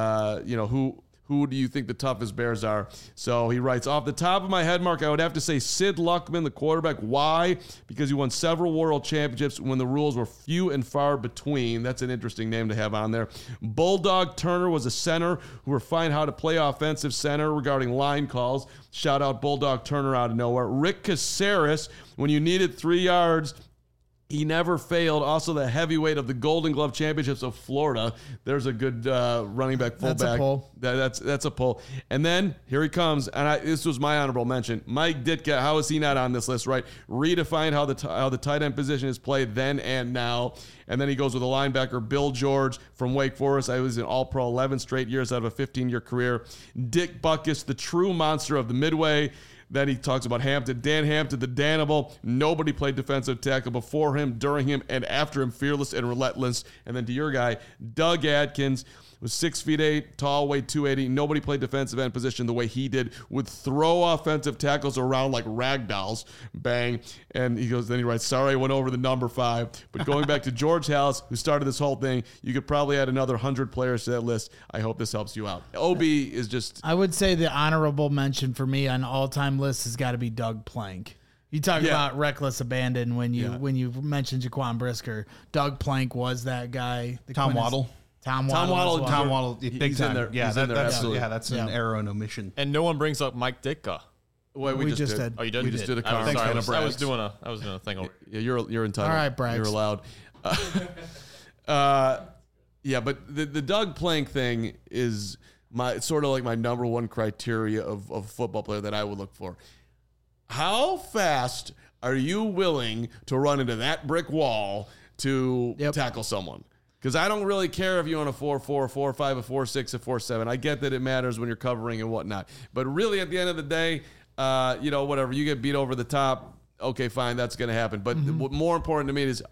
who do you think the toughest Bears are? So he writes, off the top of my head, Mark, I would have to say Sid Luckman, the quarterback. Why? Because he won several world championships when the rules were few and far between. That's an interesting name to have on there. Bulldog Turner was a center who refined how to play offensive center regarding line calls. Shout out Bulldog Turner out of nowhere. Rick Caceres, when you needed 3 yards, he never failed. Also, the heavyweight of the Golden Glove Championships of Florida. There's a good running back, fullback. That's a pull. That's a pull. And then here he comes. And this was my honorable mention. Mike Ditka. How is he not on this list? Right? Redefined how the tight end position is played then and now. And then he goes with a linebacker, Bill George from Wake Forest. I was an All-Pro 11 straight years out of a 15-year career. Dick Butkus, the true monster of the Midway. Then he talks about Hampton, Dan Hampton, the Danimal. Nobody played defensive tackle before him, during him, and after him. Fearless and relentless. And then to your guy, Doug Atkins, was 6'8", tall, weighed 280. Nobody played defensive end position the way he did. Would throw offensive tackles around like rag dolls. Bang. And then he writes, sorry, I went over the number 5. But going back to George Halas, who started this whole thing, you could probably add another 100 players to that list. I hope this helps you out. OB is just... I would say the honorable mention for me on all-time list has got to be Doug Plank. You talk about reckless abandon when you mentioned Jaquan Brisker. Doug Plank was that guy. Tom Waddle. Tom Waddle, big time. In there. Yeah, He's in there, absolutely. That's an error and omission. And no one brings up Mike Ditka. Well, we just did. Oh, you did? We just did a I Carm. was doing a thing over. Yeah, you're entitled. All right, Brags. You're allowed. Yeah, but the Doug Plank thing is sort of like my number one criteria of a football player that I would look for. How fast are you willing to run into that brick wall to tackle someone? Because I don't really care if you're on a 4-4, a 4-5, a 4-6, a 4-7. I get that it matters when you're covering and whatnot. But really, at the end of the day, whatever, you get beat over the top, okay, fine, that's going to happen. But what more important to me is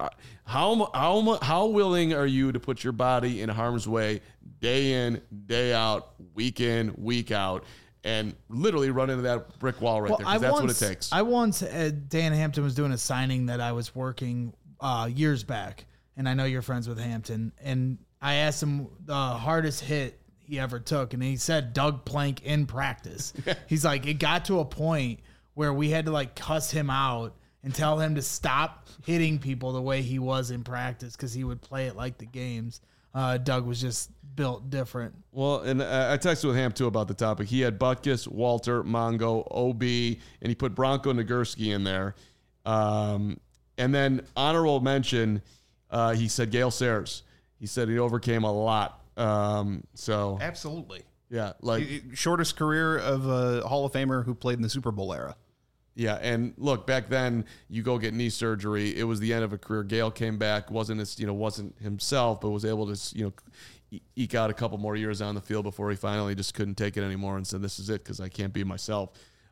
how willing are you to put your body in harm's way day in, day out, week in, week out, and literally run into that brick wall right there, because that's what it takes. I once, Dan Hampton was doing a signing that I was working years back, and I know you're friends with Hampton, and I asked him the hardest hit he ever took, and he said Doug Plank in practice. He's like, it got to a point where we had to like cuss him out and tell him to stop hitting people the way he was in practice, because he would play it like the games. Doug was just built different. Well, and I texted with Ham, too, about the topic. He had Butkus, Walter, Mongo, OB, and he put Bronco Nagurski in there. And then honorable mention, he said Gale Sayers. He said he overcame a lot. Absolutely. Yeah. Like shortest career of a Hall of Famer who played in the Super Bowl era. Yeah, and look, back then you go get knee surgery. It was the end of a career. Gale came back, wasn't himself, but was able to eke out a couple more years on the field before he finally just couldn't take it anymore and said, "This is it, because I can't be myself."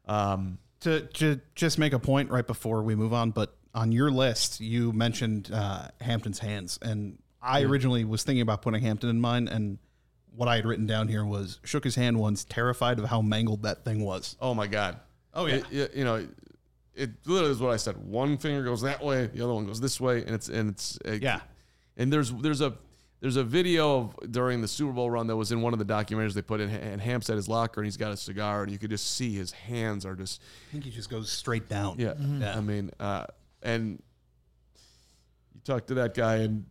To just make a point right before we move on, but on your list you mentioned Hampton's hands, and I originally was thinking about putting Hampton in mine, and what I had written down here was shook his hand once, terrified of how mangled that thing was. Oh my God. Oh yeah. It literally is what I said. One finger goes that way, the other one goes this way, and there's a video of during the Super Bowl run that was in one of the documentaries they put in, and Hamp's at his locker and he's got a cigar, and you could just see his hands are just. I think he just goes straight down. Yeah, yeah. I mean, and you talk to that guy, and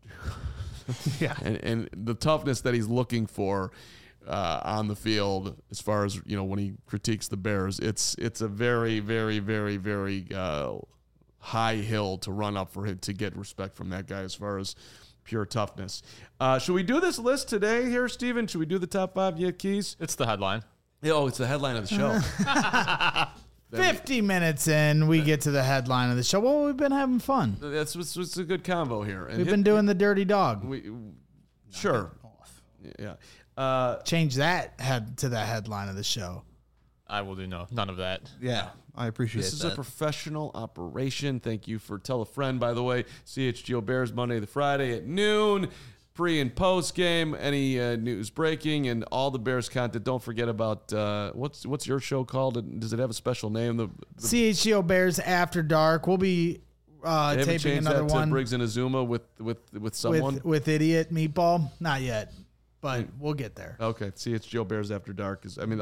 and the toughness that he's looking for. On the field, as far as when he critiques the Bears, it's a very, very, very, very high hill to run up for him to get respect from that guy as far as pure toughness. Should we do this list today here, Steven? Should we do the top 5 yet, Keys? It's the headline. Oh, it's the headline of the show. 50 minutes in, we get to the headline of the show. Well, we've been having fun. That's what's a good combo here. And we've been doing the dirty dog. Sure. Yeah. Change that to the headline of the show. I will do none of that. Yeah, I appreciate that. This is a professional operation. Thank you for tell a friend, by the way. CHGO Bears Monday to Friday at noon. Pre and post game, any news breaking, and all the Bears content. Don't forget about what's your show called? Does it have a special name? The CHGO Bears After Dark. We'll be taping another one. Briggs and Azuma with someone with Idiot Meatball. Not yet. But we'll get there. Okay. See, it's Joe Bears After Dark.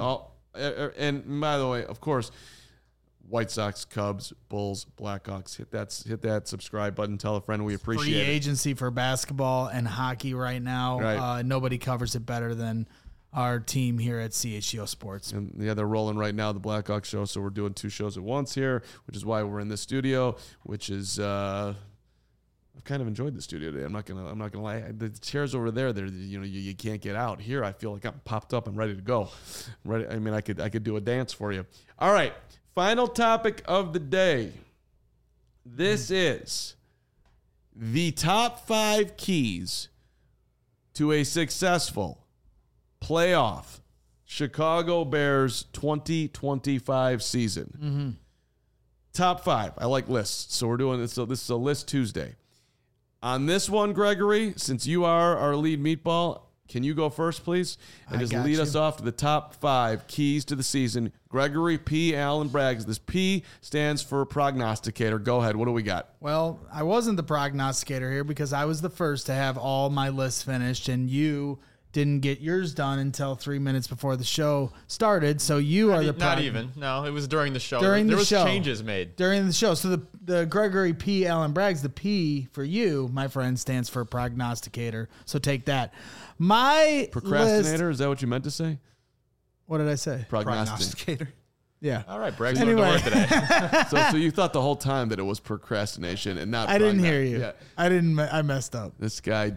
And by the way, of course, White Sox, Cubs, Bulls, Blackhawks. Hit that subscribe button. Tell a friend. We appreciate it. Free agency for basketball and hockey right now. Right. Nobody covers it better than our team here at CHGO Sports. And they're rolling right now, the Blackhawks show. So we're doing 2 shows at once here, which is why we're in this studio, which is I've kind of enjoyed the studio today. I'm not gonna lie. The chairs over there, you can't get out. Here, I feel like I'm popped up and ready to go. Ready. I mean, I could do a dance for you. All right. Final topic of the day. This is the top 5 keys to a successful playoff Chicago Bears 2025 season. Mm-hmm. Top 5. I like lists, so we're doing this. So this is a list Tuesday. On this one, Gregory, since you are our lead meatball, can you go first, please? And just lead us off to the top 5 keys to the season. Gregory P. Allen Braggs. This P stands for prognosticator. Go ahead. What do we got? Well, I wasn't the prognosticator here because I was the first to have all my lists finished, and you didn't get yours done until 3 minutes before the show started. So you are the not even. No, it was during the show. There was changes made during the show. So the Gregory P. Allen Braggs, the P for you, my friend, stands for prognosticator. So take that. My procrastinator. List, is that what you meant to say? what did I say? Prognosticator. Yeah. All right, Bragg's going to work today. So you thought the whole time that it was procrastination and not. I didn't trying hear to- you. Yeah. I messed up. This guy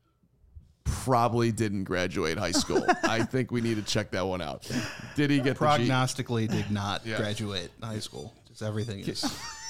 probably didn't graduate high school. I think we need to check that one out. Did he get the G? Prognostically did not graduate high school. Just everything is.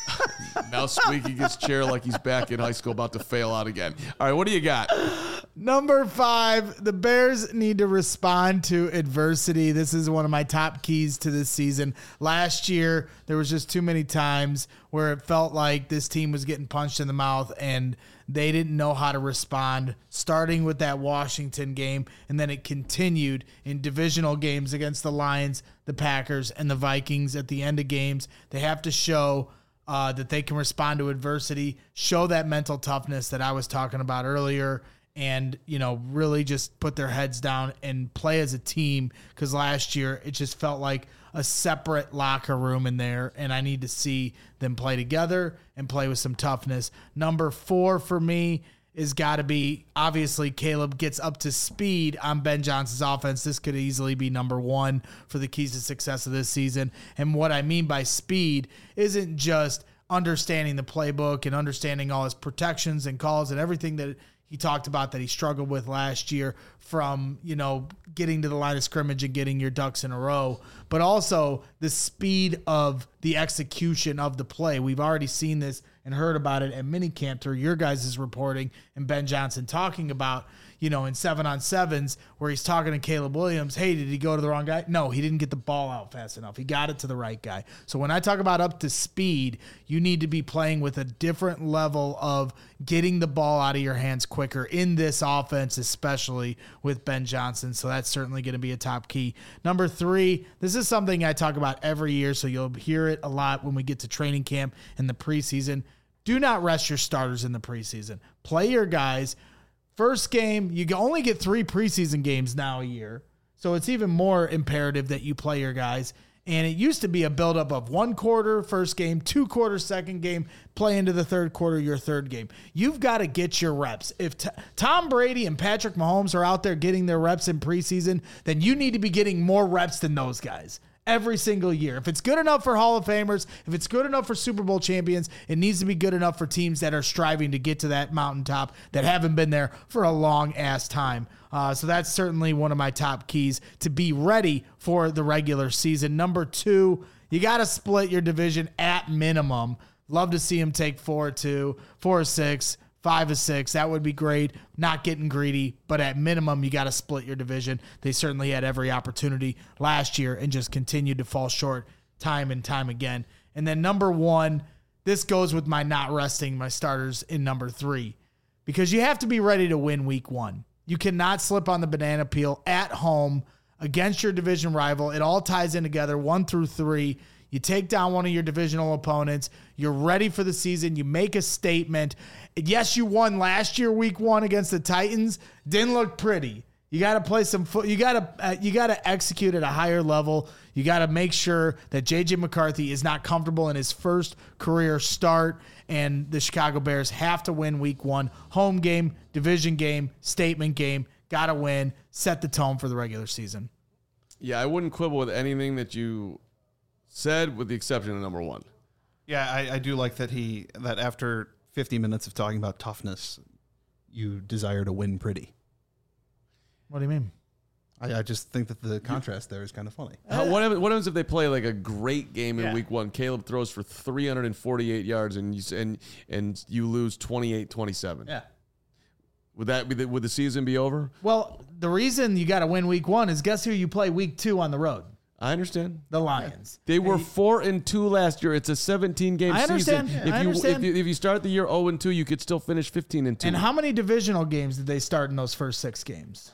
Now squeaking his chair like he's back in high school about to fail out again. All right, what do you got? Number 5, the Bears need to respond to adversity. This is one of my top keys to this season. Last year, there was just too many times where it felt like this team was getting punched in the mouth and they didn't know how to respond, starting with that Washington game, and then it continued in divisional games against the Lions, the Packers, and the Vikings at the end of games. They have to show that they can respond to adversity, show that mental toughness that I was talking about earlier, and, really just put their heads down and play as a team, because last year it just felt like a separate locker room in there, and I need to see them play together and play with some toughness. Number 4 for me is got to be, obviously, Caleb gets up to speed on Ben Johnson's offense. This could easily be number 1 for the keys to success of this season. And what I mean by speed isn't just understanding the playbook and understanding all his protections and calls and everything that he talked about that he struggled with last year, from, getting to the line of scrimmage and getting your ducks in a row, but also the speed of the execution of the play. We've already seen this and heard about it at minicamp through your guys' reporting and Ben Johnson talking about, in 7-on-7s where he's talking to Caleb Williams. Hey, did he go to the wrong guy? No, he didn't get the ball out fast enough. He got it to the right guy. So when I talk about up to speed, you need to be playing with a different level of getting the ball out of your hands quicker in this offense, especially with Ben Johnson. So that's certainly going to be a top key. Number 3, this is something I talk about every year, so you'll hear it a lot when we get to training camp in the preseason. Do not rest your starters in the preseason. Play your guys. First game, you only get 3 preseason games now a year, so it's even more imperative that you play your guys. And it used to be a buildup of 1 quarter first game, 2 quarters second game, play into the third quarter your third game. You've got to get your reps. If Tom Brady and Patrick Mahomes are out there getting their reps in preseason, then you need to be getting more reps than those guys every single year. If it's good enough for Hall of Famers, if it's good enough for Super Bowl champions, it needs to be good enough for teams that are striving to get to that mountaintop that haven't been there for a long ass time. So that's certainly one of my top keys to be ready for the regular season. Number 2, you got to split your division at minimum. Love to see him take 4-2, 4-6, 5-6. That would be great. Not getting greedy, but at minimum, you got to split your division. They certainly had every opportunity last year and just continued to fall short time and time again. And then number 1, this goes with my not resting my starters in number 3, because you have to be ready to win week 1. You cannot slip on the banana peel at home against your division rival. It all ties in together, 1 through 3. You take down one of your divisional opponents. You're ready for the season. You make a statement. Yes, you won last year, week 1 against the Titans. Didn't look pretty. You got to play some foot. You got to execute at a higher level. You got to make sure that JJ McCarthy is not comfortable in his first career start. And the Chicago Bears have to win week 1. Home game, division game, statement game. Got to win. Set the tone for the regular season. Yeah, I wouldn't quibble with anything that you said, with the exception of number 1. Yeah, I do like that that after 50 minutes of talking about toughness, you desire to win pretty. What do you mean? I just think that the contrast there is kind of funny. What happens if they play like a great game in week 1? Caleb throws for 348 yards and you lose 28-27. Yeah. Would the season be over? Well, the reason you got to win week 1 is guess who you play week 2 on the road? I understand. The Lions. They were 4-2 last year. It's a 17-game season. I understand. If I understand. If you start the year 0-2, you could still finish 15-2. And how many divisional games did they start in those first 6 games?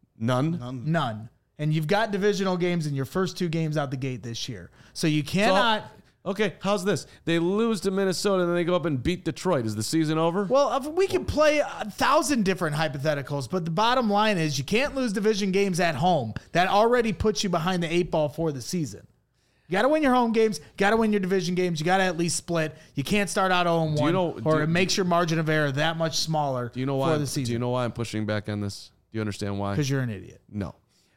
None. And you've got divisional games in your first 2 games out the gate this year. So you cannot... Okay, how's this? They lose to Minnesota and then they go up and beat Detroit. Is the season over? Well, we can play 1,000 different hypotheticals, but the bottom line is you can't lose division games at home. That already puts you behind the 8 ball for the season. You got to win your home games. Got to win your division games. You got to at least split. You can't start out 0-1, it makes your margin of error that much smaller for the season. Do you know why I'm pushing back on this? Do you understand why? Because you're an idiot. No.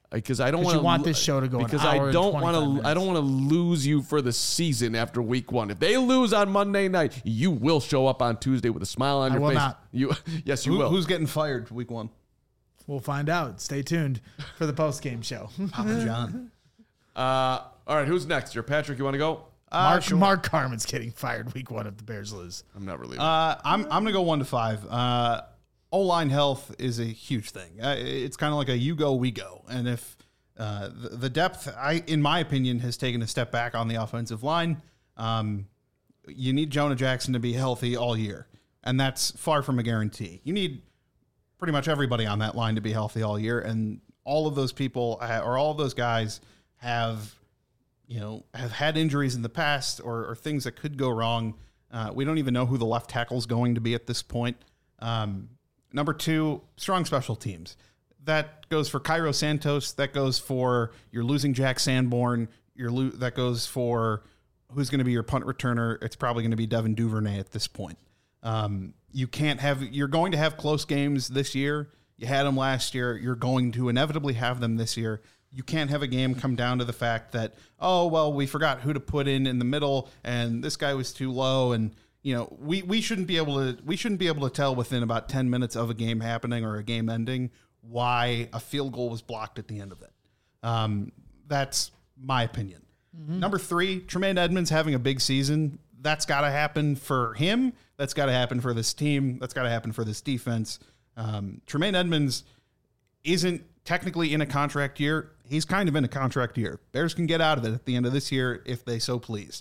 because I don't 'Cause want you want this show to go an because hour I and don't 25 want to. minutes. I don't want to lose you for the season after week 1. If they lose on Monday night, you will show up on Tuesday with a smile on I your will face. not. Yes, you will. Who's getting fired week 1? We'll find out. Stay tuned for the post game show. Papa John. All right, who's next? Here, Patrick, you want to go? Mark Carmen's getting fired week 1 if the Bears lose. I'm not really. I'm gonna go 1 to 5. O-line health is a huge thing. It's kind of like a you go, we go. And if the depth, in my opinion, has taken a step back on the offensive line, you need Jonah Jackson to be healthy all year, and that's far from a guarantee. You need pretty much everybody on that line to be healthy all year, and all of those people or all of those guys have had injuries in the past or things that could go wrong. We don't even know who the left tackle is going to be at this point. Number 2, strong special teams. That goes for Cairo Santos. That goes for you're losing Jack Sanborn. That goes for who's going to be your punt returner. It's probably going to be Devin Duvernay at this point. You're going to have close games this year. You had them last year. You're going to inevitably have them this year. You can't have a game come down to the fact that, we forgot who to put in the middle and this guy was too low. And, we shouldn't be able to tell within about 10 minutes of a game happening or a game ending why a field goal was blocked at the end of it. That's my opinion. Mm-hmm. Number 3, Tremaine Edmonds having a big season. That's got to happen for him. That's got to happen for this team. That's got to happen for this defense. Tremaine Edmonds isn't technically in a contract year. He's kind of in a contract year. Bears can get out of it at the end of this year if they so please.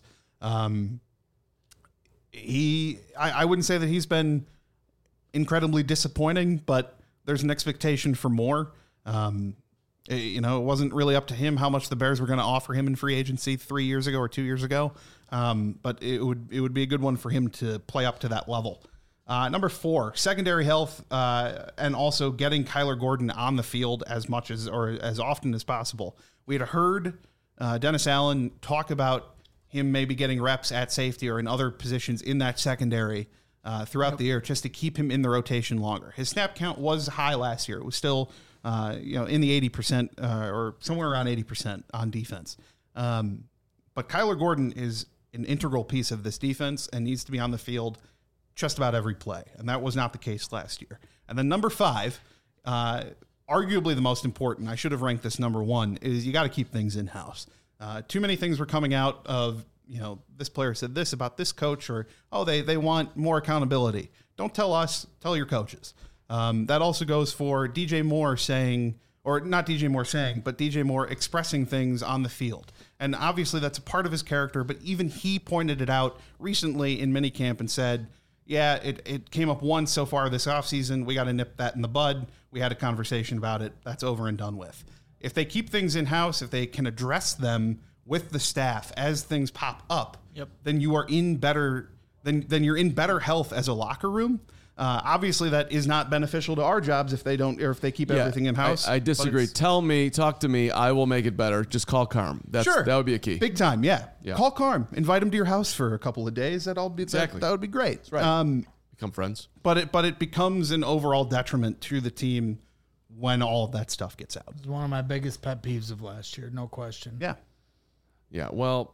I wouldn't say that he's been incredibly disappointing, but there's an expectation for more. It wasn't really up to him how much the Bears were going to offer him in free agency 3 years ago or 2 years ago. But it would be a good one for him to play up to that level. Number 4, secondary health, and also getting Kyler Gordon on the field as much as or as often as possible. We had heard Dennis Allen talk about him maybe getting reps at safety or in other positions in that secondary throughout the year just to keep him in the rotation longer. His snap count was high last year. It was still in the 80% or somewhere around 80% on defense. But Kyler Gordon is an integral piece of this defense and needs to be on the field just about every play. And that was not the case last year. And then number 5, arguably the most important, I should have ranked this number 1, is you got to keep things in-house. Too many things were coming out of, this player said this about this coach or, they want more accountability. Don't tell us, tell your coaches. That also goes for DJ Moore saying, or not DJ Moore saying, but DJ Moore expressing things on the field. And obviously that's a part of his character, but even he pointed it out recently in minicamp and said, yeah, it came up once so far this offseason. We got to nip that in the bud. We had a conversation about it. That's over and done with. If they keep things in-house, if they can address them with the staff as things pop up, then you are in better then you're in better health as a locker room. Obviously, that is not beneficial to our jobs if they don't or if they keep everything in-house. I disagree. Talk to me. I will make it better. Just call Carm. That would be a key. Big time, yeah. Call Carm. Invite him to your house for a couple of days. That would be great. That's right. Become friends. But it becomes an overall detriment to the team when all of that stuff gets out. It's one of my biggest pet peeves of last year, no question. Yeah. Yeah, well,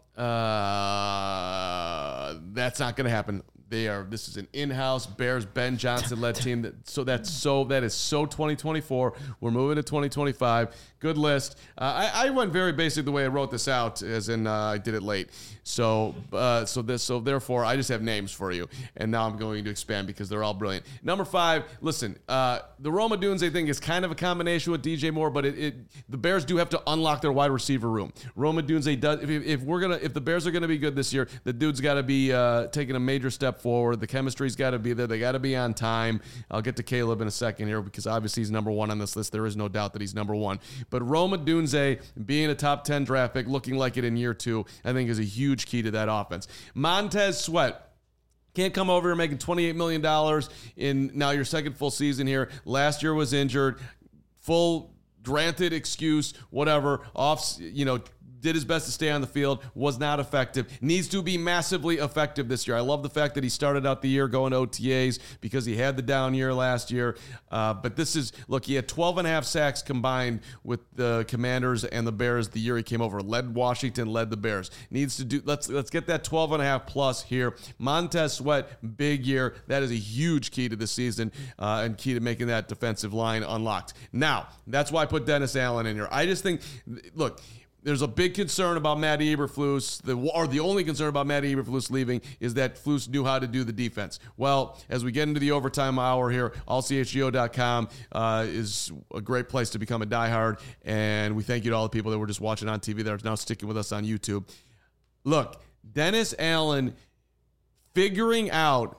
that's not going to happen. This is an in-house Bears Ben Johnson led team. That is so 2024. We're moving to 2025. Good list. I went very basic the way I wrote this out, as in I did it late. So therefore I just have names for you, and now I'm going to expand because they're all brilliant. Number 5. Listen, the Rome Odunze thing is kind of a combination with DJ Moore, but the Bears do have to unlock their wide receiver room. Rome Odunze does. If the Bears are gonna be good this year, the dude's got to be taking a major step forward. The chemistry's got to be there. They got to be on time. I'll get to Caleb in a second here because obviously he's number 1 on this list. There is no doubt that he's number 1. But Rome Odunze being a top 10 draft pick, looking like it in year 2, I think is a huge key to that offense. Montez Sweat. Can't come over here making $28 million in now your second full season here. Last year was injured. Full granted excuse, whatever. did his best to stay on the field, was not effective, needs to be massively effective this year. I love the fact that he started out the year going to OTAs because he had the down year last year. But this is, look, he had 12.5 sacks combined with the Commanders and the Bears the year he came over. Led Washington, led the Bears. Needs to do, let's get that 12.5 plus here. Montez Sweat, big year. That is a huge key to the season and key to making that defensive line unlocked. Now, that's why I put Dennis Allen in here. I just think, look, there's a big concern about Matt Eberflus, the only concern about Matt Eberflus leaving is that Flus knew how to do the defense. Well, as we get into the overtime hour here, allchgo.com is a great place to become a diehard, and we thank you to all the people that were just watching on TV that are now sticking with us on YouTube. Look, Dennis Allen figuring out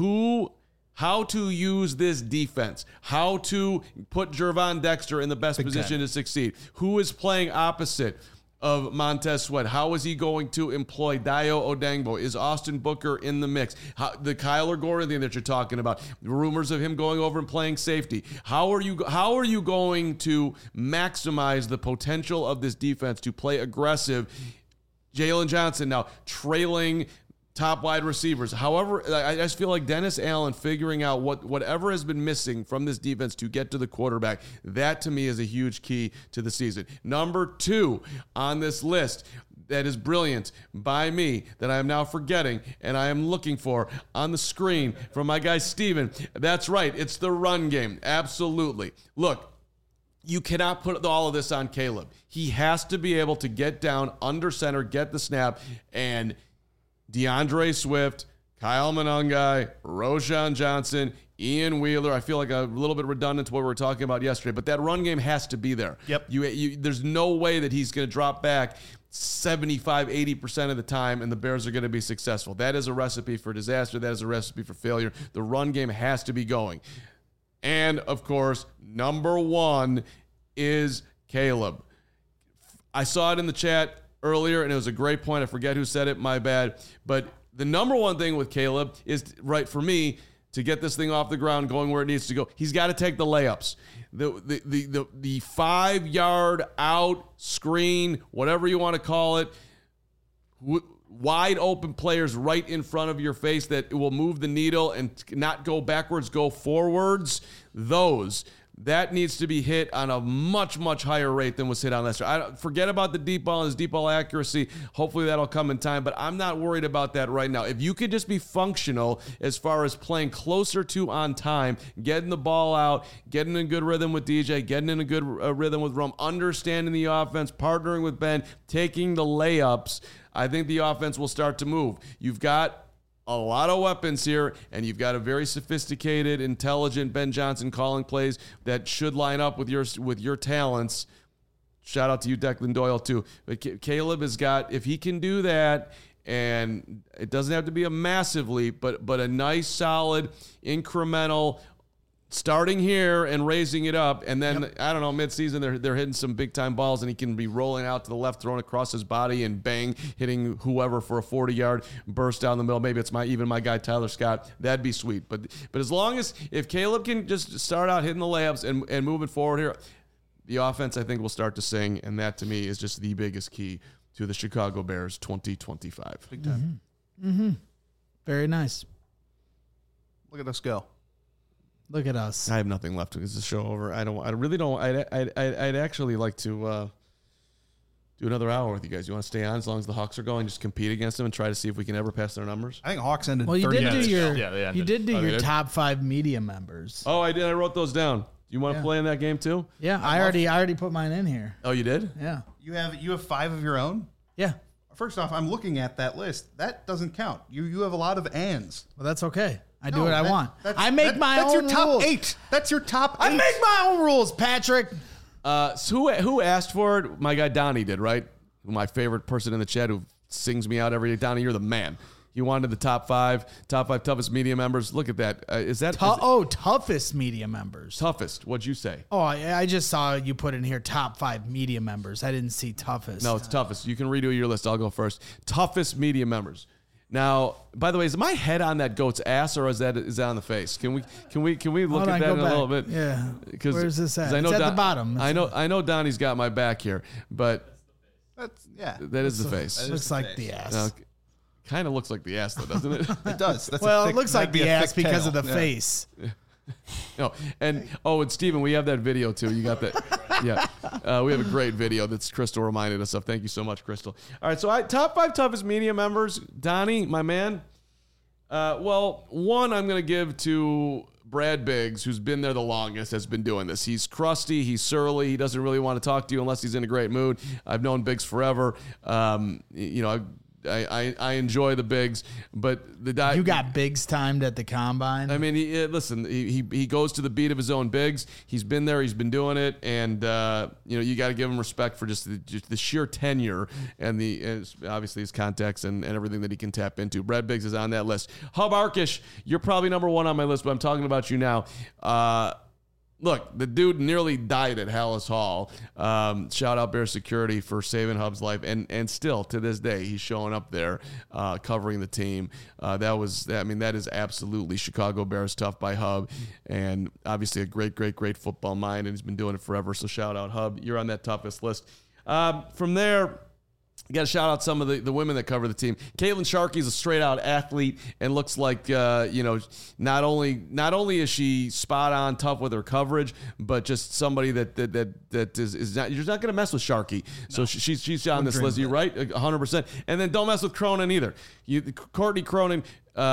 how to use this defense, how to put Gervon Dexter in the best position to succeed, who is playing opposite of Montez Sweat, how is he going to employ Dayo Odangbo? Is Austin Booker in the mix? The Kyler Gordon thing that you're talking about, rumors of him going over and playing safety. How are you going to maximize the potential of this defense to play aggressive? Jalen Johnson now trailing top wide receivers. However, I just feel like Dennis Allen figuring out whatever has been missing from this defense to get to the quarterback, that to me is a huge key to the season. Number 2 on this list that is brilliant by me that I am now forgetting and I am looking for on the screen from my guy Steven. That's right. It's the run game. Absolutely. Look, you cannot put all of this on Caleb. He has to be able to get down under center, get the snap, and DeAndre Swift, Kyle Monangai, Roschon Johnson, Ian Wheeler. I feel like a little bit redundant to what we were talking about yesterday, but that run game has to be there. Yep. There's no way that he's going to drop back 75, 80% of the time and the Bears are going to be successful. That is a recipe for disaster. That is a recipe for failure. The run game has to be going. And, of course, number 1 is Caleb. I saw it in the chat earlier, and it was a great point. I forget who said it, my bad. But the number 1 thing with Caleb is, right, for me, to get this thing off the ground, going where it needs to go, he's got to take the layups. The 5-yard out, screen, whatever you want to call it, wide open players right in front of your face that will move the needle and not go backwards, go forwards, that needs to be hit on a much, much higher rate than was hit on last year. Forget about the deep ball and his deep ball accuracy. Hopefully that'll come in time, but I'm not worried about that right now. If you could just be functional as far as playing closer to on time, getting the ball out, getting in good rhythm with DJ, getting in a good rhythm with Rome, understanding the offense, partnering with Ben, taking the layups, I think the offense will start to move. You've got a lot of weapons here, and you've got a very sophisticated, intelligent Ben Johnson calling plays that should line up with your talents. Shout out to you, Declan Doyle, too. But Caleb has got, if he can do that, and it doesn't have to be a massive leap, but a nice, solid, incremental, starting here and raising it up, and then, I don't know, midseason they're hitting some big-time balls, and he can be rolling out to the left, throwing across his body, and bang, hitting whoever for a 40-yard burst down the middle. Maybe it's even my guy Tyler Scott. That'd be sweet. But as long as, if Caleb can just start out hitting the layups and moving forward here, the offense, I think, will start to sing, and that, to me, is just the biggest key to the Chicago Bears 2025. Big time. Mm-hmm. Very nice. Look at us go. Look at us. I have nothing left. Is the show over? I'd actually like to do another hour with you guys. You want to stay on as long as the Hawks are going? Just compete against them and try to see if we can ever pass their numbers. I think Hawks ended. Well, you 30 did do minutes. you did do your top 5 media members. Oh, I did. I wrote those down. You want to play in that game too? Yeah, I already put mine in here. Oh, you did? Yeah. You have 5 of your own. Yeah. First off, I'm looking at that list. That doesn't count. You have a lot of ands. Well, that's okay. I do what I want. I make my own rules. That's your top rules. 8. That's your top 8. I make my own rules, Patrick. So who asked for it? My guy Donnie did, right? My favorite person in the chat who sings me out every day. Donnie, you're the man. You wanted the top 5 toughest media members. Look at that. Is that toughest media members? Toughest. What'd you say? Oh, I just saw you put in here top 5 media members. I didn't see toughest. No, it's toughest. You can redo your list. I'll go first. Toughest media members. Now, by the way, is my head on that goat's ass or is that on the face? Can we look at that in a little bit? Yeah. Where's this at? I know it's at the bottom. I know Donnie's got my back here, but That's yeah. That is the face. Looks like the ass. Kind of looks like the ass, though, doesn't it? It does. That's Well, a it thick, looks like that'd be the a ass thick because tail. of the Yeah. face. And Steven, we have that video too. You got that? Yeah. We have a great video that's Crystal reminded us of. Thank you so much, Crystal. All right, so top 5 toughest media members. Donnie, my man. Well, one I'm going to give to Brad Biggs, who's been there the longest, has been doing this. He's crusty. He's surly. He doesn't really want to talk to you unless he's in a great mood. I've known Biggs forever. I enjoy the Biggs, but the guy You got Biggs timed at the combine. I mean, listen, he goes to the beat of his own Biggs. He's been there. He's been doing it, and you got to give him respect for just the sheer tenure and obviously his contacts and everything that he can tap into. Brad Biggs is on that list. Hub Arkish, you're probably number 1 on my list, but I'm talking about you now. Look, the dude nearly died at Hallis Hall. Shout out Bear Security for saving Hub's life, and still to this day he's showing up there covering the team. That is absolutely Chicago Bears tough by Hub, and obviously a great football mind, and he's been doing it forever. So shout out Hub, you're on that toughest list. From there, you got to shout out some of the women that cover the team. Caitlin Sharkey's a straight out athlete and looks like not only is she spot on tough with her coverage, but just somebody that is not, you're not going to mess with Sharkey. No. So she's on this list. You're right, 100%. And then don't mess with Cronin either. Courtney Cronin.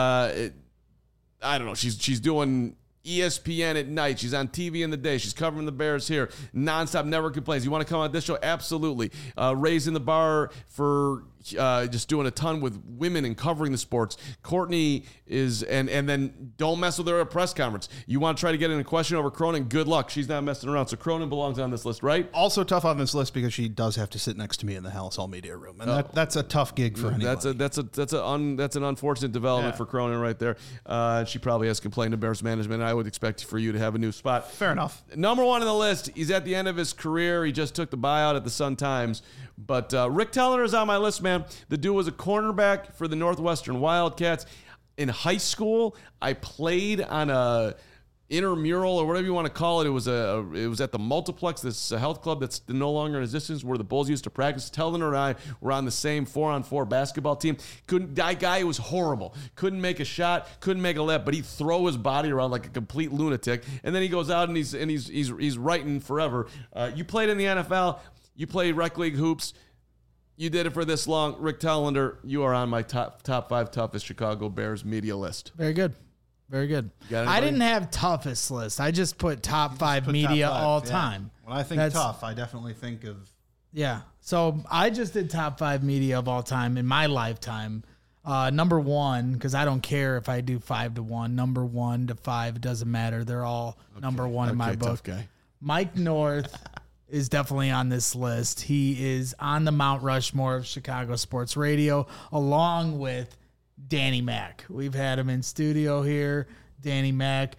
I don't know. She's doing ESPN at night. She's on TV in the day. She's covering the Bears here nonstop, never complains. You want to come on this show? Absolutely. Raising the bar for just doing a ton with women and covering the sports. Courtney is, and then don't mess with her at a press conference. You want to try to get in a question over Cronin? Good luck. She's not messing around. So Cronin belongs on this list, right? Also tough on this list because she does have to sit next to me in the Hallis Hall media room, and that's a tough gig for anybody. That's an unfortunate development for Cronin right there. She probably has complained to Bears management. I would expect for you to have a new spot. Fair enough. Number 1 on the list. He's at the end of his career. He just took the buyout at the Sun-Times. But Rick Tellender is on my list, man. The dude was a cornerback for the Northwestern Wildcats. In high school, I played on a intramural or whatever you want to call it. It was at the Multiplex, this health club that's no longer in existence, where the Bulls used to practice. Tellender and I were on the same 4-on-4 basketball team. That guy was horrible. Couldn't make a shot, couldn't make a layup, but he'd throw his body around like a complete lunatic. And then he goes out and he's writing forever. You played in the NFL. You played rec league hoops. You did it for this long. Rick Tellender, you are on my top 5 toughest Chicago Bears media list. Very good. Very good. I didn't have toughest list. I just put top 5 media all time. When I think tough, I definitely think of... Yeah. So I just did top 5 media of all time in my lifetime. Number 1, because I don't care if I do 5 to 1. Number 1 to 5, it doesn't matter. They're all number 1 in my book. Tough guy. Mike North is definitely on this list. He is on the Mount Rushmore of Chicago sports radio, along with Danny Mac. We've had him in studio here. Danny Mac.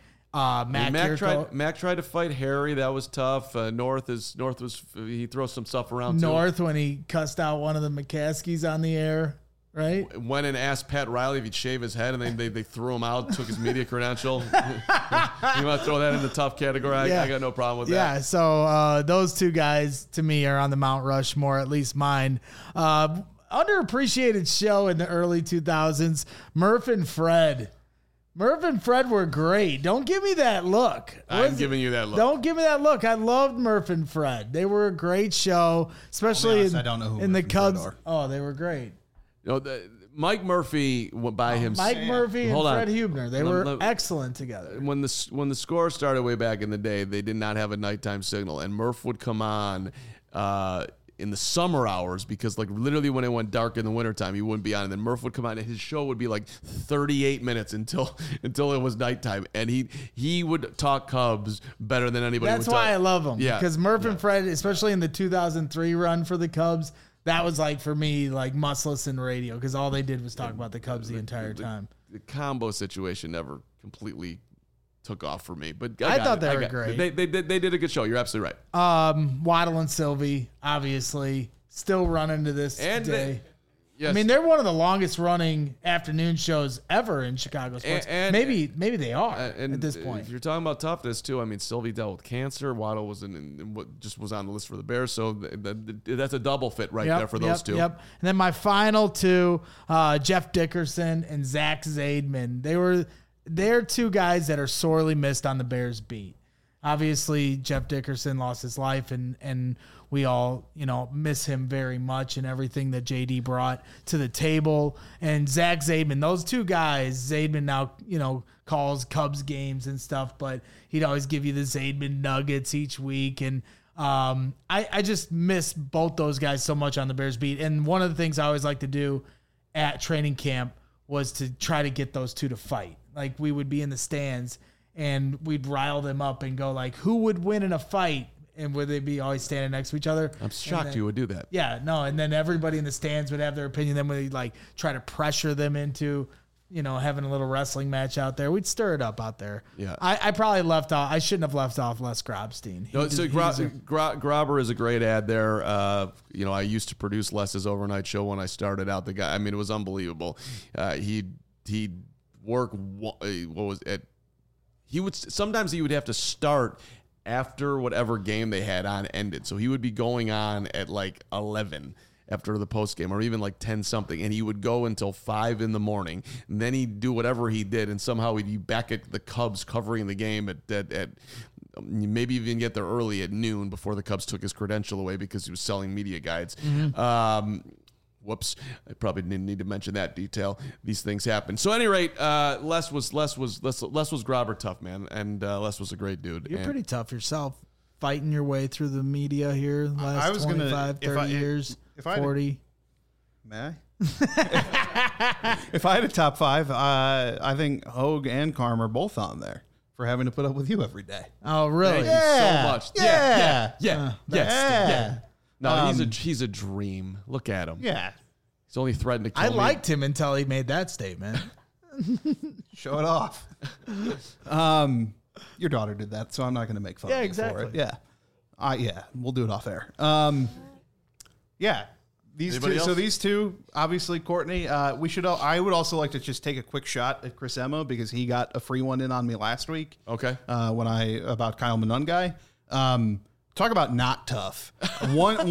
Mac tried to fight Harry. That was tough. North he throws some stuff around North too. When he cussed out one of the McCaskies on the air. Right? Went and asked Pat Riley if he'd shave his head, and then they threw him out, took his media credential. You want to throw that in the tough category? I got no problem with that. Yeah, so those two guys, to me, are on the Mount Rushmore, at least mine. Underappreciated show in the early 2000s, Murph and Fred. Murph and Fred were great. Don't give me that look. I'm giving you that look. Don't give me that look. I loved Murph and Fred. They were a great show, especially I don't know who in the Murph and Cubs. Fred are. Oh, they were great. Mike Murphy by himself. Mike Murphy and Fred Hubner. They were excellent together. When the score started way back in the day, they did not have a nighttime signal, and Murph would come on in the summer hours because, like, literally when it went dark in the wintertime, he wouldn't be on. And then Murph would come on, and his show would be like 38 minutes until it was nighttime, and he would talk Cubs better than anybody. That's why I love him. Yeah, because Murph and Fred, especially in the 2003 run for the Cubs. That was like, for me, like must-listen radio because all they did was talk about the Cubs the entire time. The combo situation never completely took off for me, but I thought they were great. They did a good show. You're absolutely right. Waddle and Sylvie, obviously, still running to this day. Yes. I mean, they're one of the longest running afternoon shows ever in Chicago sports. And maybe they are and at this point. If you're talking about toughness too, I mean, Sylvie dealt with cancer. Waddle was just was on the list for the Bears, so that's a double fit right there for those two. Yep. And then my final two, Jeff Dickerson and Zach Zaidman. They're two guys that are sorely missed on the Bears beat. Obviously, Jeff Dickerson lost his life, and we all, miss him very much and everything that JD brought to the table. And Zach Zaidman, those two guys, Zaidman now, calls Cubs games and stuff, but he'd always give you the Zaidman nuggets each week. And I just miss both those guys so much on the Bears beat. And one of the things I always like to do at training camp was to try to get those two to fight. Like, we would be in the stands and we'd rile them up and go like, who would win in a fight? And would they be always standing next to each other? I'm shocked you would do that. Yeah, no. And then everybody in the stands would have their opinion. Then we'd try to pressure them into, having a little wrestling match out there. We'd stir it up out there. Yeah. I probably left off. I shouldn't have left off Les Grobstein. Grobber is a great ad there. I used to produce Les's overnight show when I started out. The guy, I mean, it was unbelievable. He'd work. Sometimes he would have to start after whatever game they had on ended. So he would be going on at 11 after the post game, or even 10 something. And he would go until 5 in the morning. And then he'd do whatever he did. And somehow he'd be back at the Cubs covering the game at maybe even get there early at noon before the Cubs took his credential away because he was selling media guides. Mm-hmm. Whoops! I probably didn't need to mention that detail. These things happen. So, at any rate, Les was Grobber tough, man, and Les was a great dude. You're pretty tough yourself, fighting your way through the media here the last 25, 30 years, 40. May I? If I had a top five, I think Hogue and Carm are both on there for having to put up with you every day. Oh, really? Thank you so much. Yeah. Yes. No, he's a dream. Look at him. Yeah. He's only threatened to kill me. I liked him until he made that statement. Show it off. Your daughter did that, so I'm not going to make fun of you exactly. for it. Yeah. We'll do it off air. Yeah. These two, obviously, Courtney, I would also like to just take a quick shot at Chris Emma because he got a free one in on me last week. Okay. About Kyle Monungai. Talk about not tough. One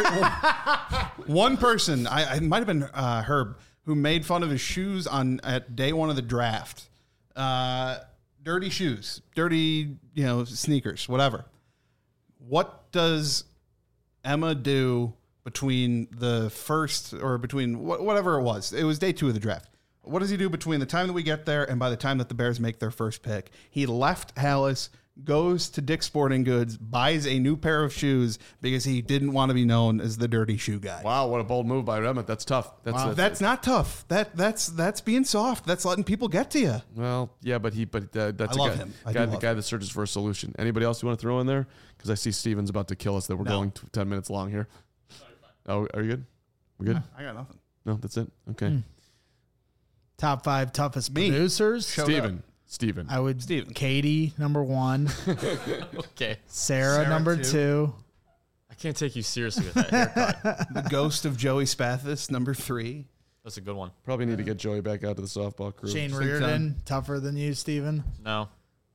person, it might have been Herb, who made fun of his shoes at day one of the draft. Dirty shoes, dirty, sneakers, whatever. What does Emma do between the first or between whatever it was? It was day 2 of the draft. What does he do between the time that we get there and by the time that the Bears make their first pick? He left Hallis, goes to Dick's Sporting Goods, buys a new pair of shoes because he didn't want to be known as the dirty shoe guy. Wow, what a bold move by Emmett. That's tough. That's not tough. That's being soft. That's letting people get to you. Well, yeah, that's him. The guy that searches for a solution. Anybody else you want to throw in there? Because I see Steven's about to kill us. That we're going 10 minutes long here. Oh, are you good? We good? I got nothing. No, that's it. Okay. Top 5 toughest producers. Steven. I would. Katie, number 1. Okay. Sarah number 2. I can't take you seriously with that haircut. The ghost of Joey Spathis, number 3. That's a good one. Probably need to get Joey back out to the softball crew. Shane Reardon, tougher than you, Steven? No.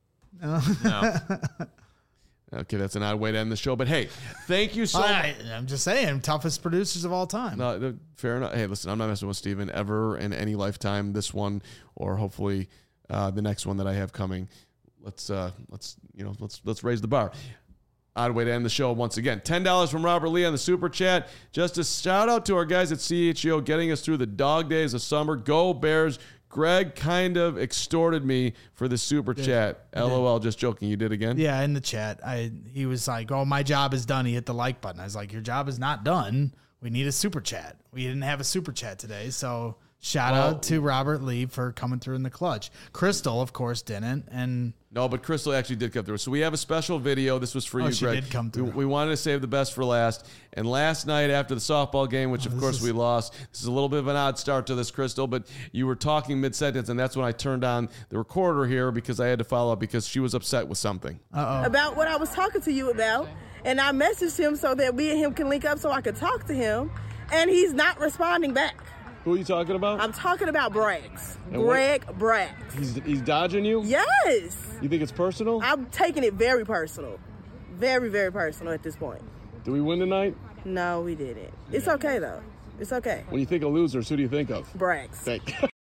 Okay, that's an odd way to end the show. But hey, thank you so much. I'm just saying, toughest producers of all time. No, fair enough. Hey, listen, I'm not messing with Steven ever in any lifetime. This one, or hopefully the next one that I have coming. Let's raise the bar. Odd way to end the show once again. $10 from Robert Lee on the Super Chat. Just a shout out to our guys at CHGO getting us through the dog days of summer. Go Bears. Greg kind of extorted me for the Super Chat. LOL, just joking. You did again? Yeah, in the chat. He was like, oh, my job is done. He hit the like button. I was like, your job is not done. We need a Super Chat. We didn't have a Super Chat today, so shout out to Robert Lee for coming through in the clutch. Crystal, of course, didn't. No, but Crystal actually did come through. So we have a special video. This was for you, she Greg. Did come through. We wanted to save the best for last. And last night after the softball game, which of course we lost, this is a little bit of an odd start to this, Crystal, but you were talking mid-sentence, and that's when I turned on the recorder here because I had to follow up because she was upset with something. About what I was talking to you about. And I messaged him so that we and him can link up so I could talk to him. And he's not responding back. Who are you talking about? I'm talking about Braggs. And Greg Braggs. He's dodging you? Yes. You think it's personal? I'm taking it very personal. Very, very personal at this point. Do we win tonight? No, we didn't. It's okay, though. It's okay. When you think of losers, who do you think of? Braggs. Thank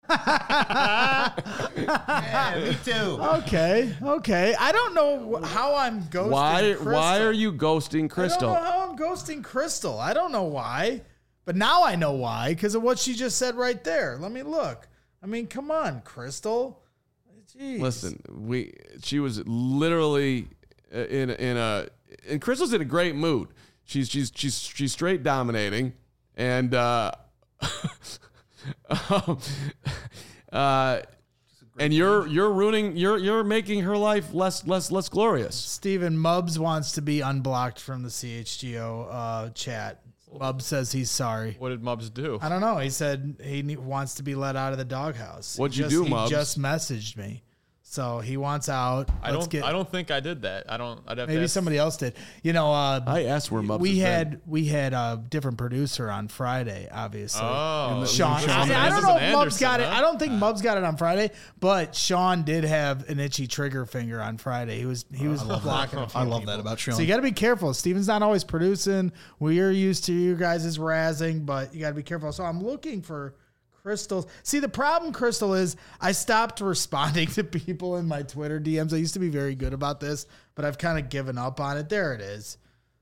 Yeah, me too. Okay. I don't know how I'm ghosting Crystal. Why are you ghosting Crystal? I don't know how I'm ghosting Crystal. I don't know why. But now I know why, because of what she just said right there. Let me look. I mean, come on, Crystal. Jeez. Listen, she was literally and Crystal's in a great mood. She's straight dominating, and and you're making her life less glorious. Steven Mubbs wants to be unblocked from the CHGO chat. Mubbs says he's sorry. What did Mubbs do? I don't know. He said he wants to be let out of the doghouse. What'd you do, Mubbs? He just messaged me. So he wants out. I don't think I did that. I'd have maybe to somebody else did. You know, I asked where Mubbs we has had a different producer on Friday, obviously. Oh, Sean. I don't know if Mubbs got it. I don't think Mubbs got it on Friday, but Sean did have an itchy trigger finger on Friday. He was blocking. I love that about Sean. So you got to be careful. Steven's not always producing. We're used to you guys' razzing, but you got to be careful. So I'm looking for Crystal. See, the problem, Crystal, is I stopped responding to people in my Twitter DMs. I used to be very good about this, but I've kind of given up on it. There it is.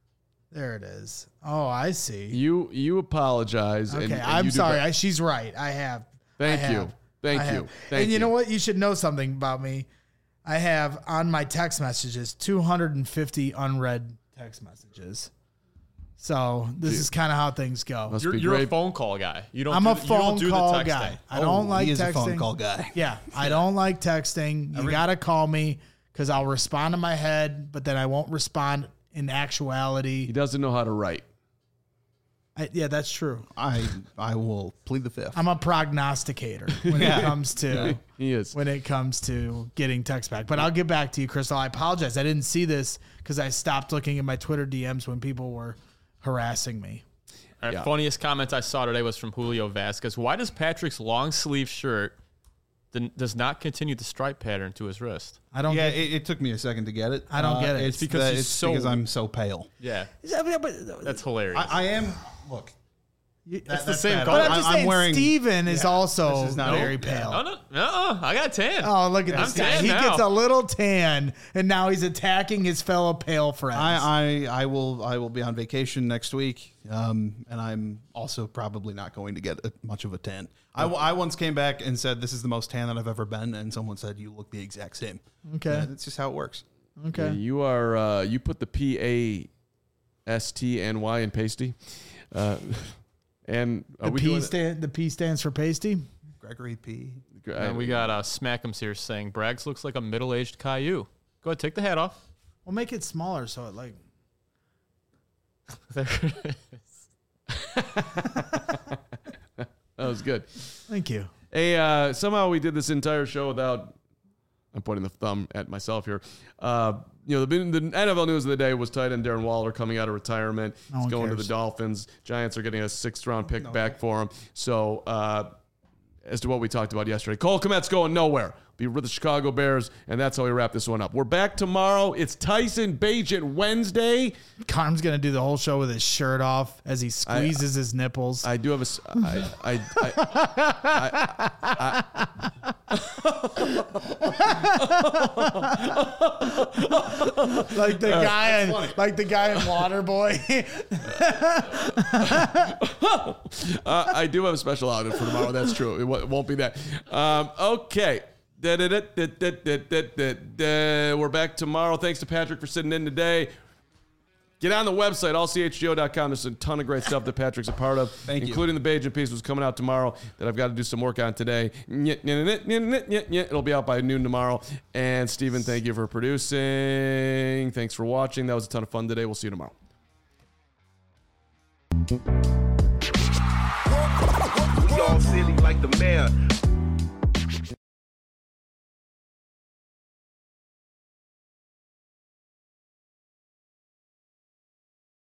Oh, I see. You apologize. Okay, and I'm you do sorry. She's right. I have. Thank you. And you know what? You should know something about me. I have on my text messages 250 unread text messages. So this is kind of how things go. You're a phone call guy. I'm a phone call guy. I don't like he is texting. a phone call guy. Yeah, I don't like texting. You got to call me because I'll respond in my head, but then I won't respond in actuality. He doesn't know how to write. Yeah, that's true. I will plead the fifth. I'm a prognosticator when it comes to He is. when it comes to getting text back. But I'll get back to you, Crystal. I apologize. I didn't see this because I stopped looking at my Twitter DMs when people were harassing me. All right, funniest comment I saw today was from Julio Vasquez. Why does Patrick's long sleeve shirt does not continue the stripe pattern to his wrist? I don't. Yeah, it took me a second to get it. I don't get it. It's because I'm so pale. Yeah, But that's hilarious. I am. Look, it's the same bad. color. I'm just saying, wearing. Steven is also this is not very it. pale. No, I got a tan. Oh, look at this I'm guy. tan He now. gets a little tan, and now he's attacking his fellow pale friends. I will be on vacation next week, and I'm also probably not going to get much of a tan. I once came back and said this is the most tan that I've ever been, and someone said you look the exact same. Okay. That's just how it works. Okay. Yeah, you are. You put the PASTNY in pasty. And The P stands for pasty. Gregory P. And we got Smackums here saying Braggs looks like a middle-aged Caillou. Go ahead, take the hat off. We'll make it smaller so it like. There it is. That was good. Thank you. Hey, somehow we did this entire show without. I'm pointing the thumb at myself here. The NFL news of the day was tight end Darren Waller coming out of retirement. He's going to the Dolphins. Giants are getting a 6th-round pick back for him. So, as to what we talked about yesterday, Cole Kmet's going nowhere. Be with the Chicago Bears, and that's how we wrap this one up. We're back tomorrow. It's Tyson Bagent Wednesday. Carm's gonna do the whole show with his shirt off as he squeezes his nipples. I do have like the guy in Waterboy. I do have a special outfit for tomorrow. That's true. It won't be that. Okay. We're back tomorrow. Thanks to Patrick for sitting in today. Get on the website, allchgo.com. There's a ton of great stuff that Patrick's a part of, including the Bagent piece, was coming out tomorrow that I've got to do some work on today. It'll be out by noon tomorrow. And Steven, thank you for producing. Thanks for watching. That was a ton of fun today. We'll see you tomorrow. We all silly like the mayor.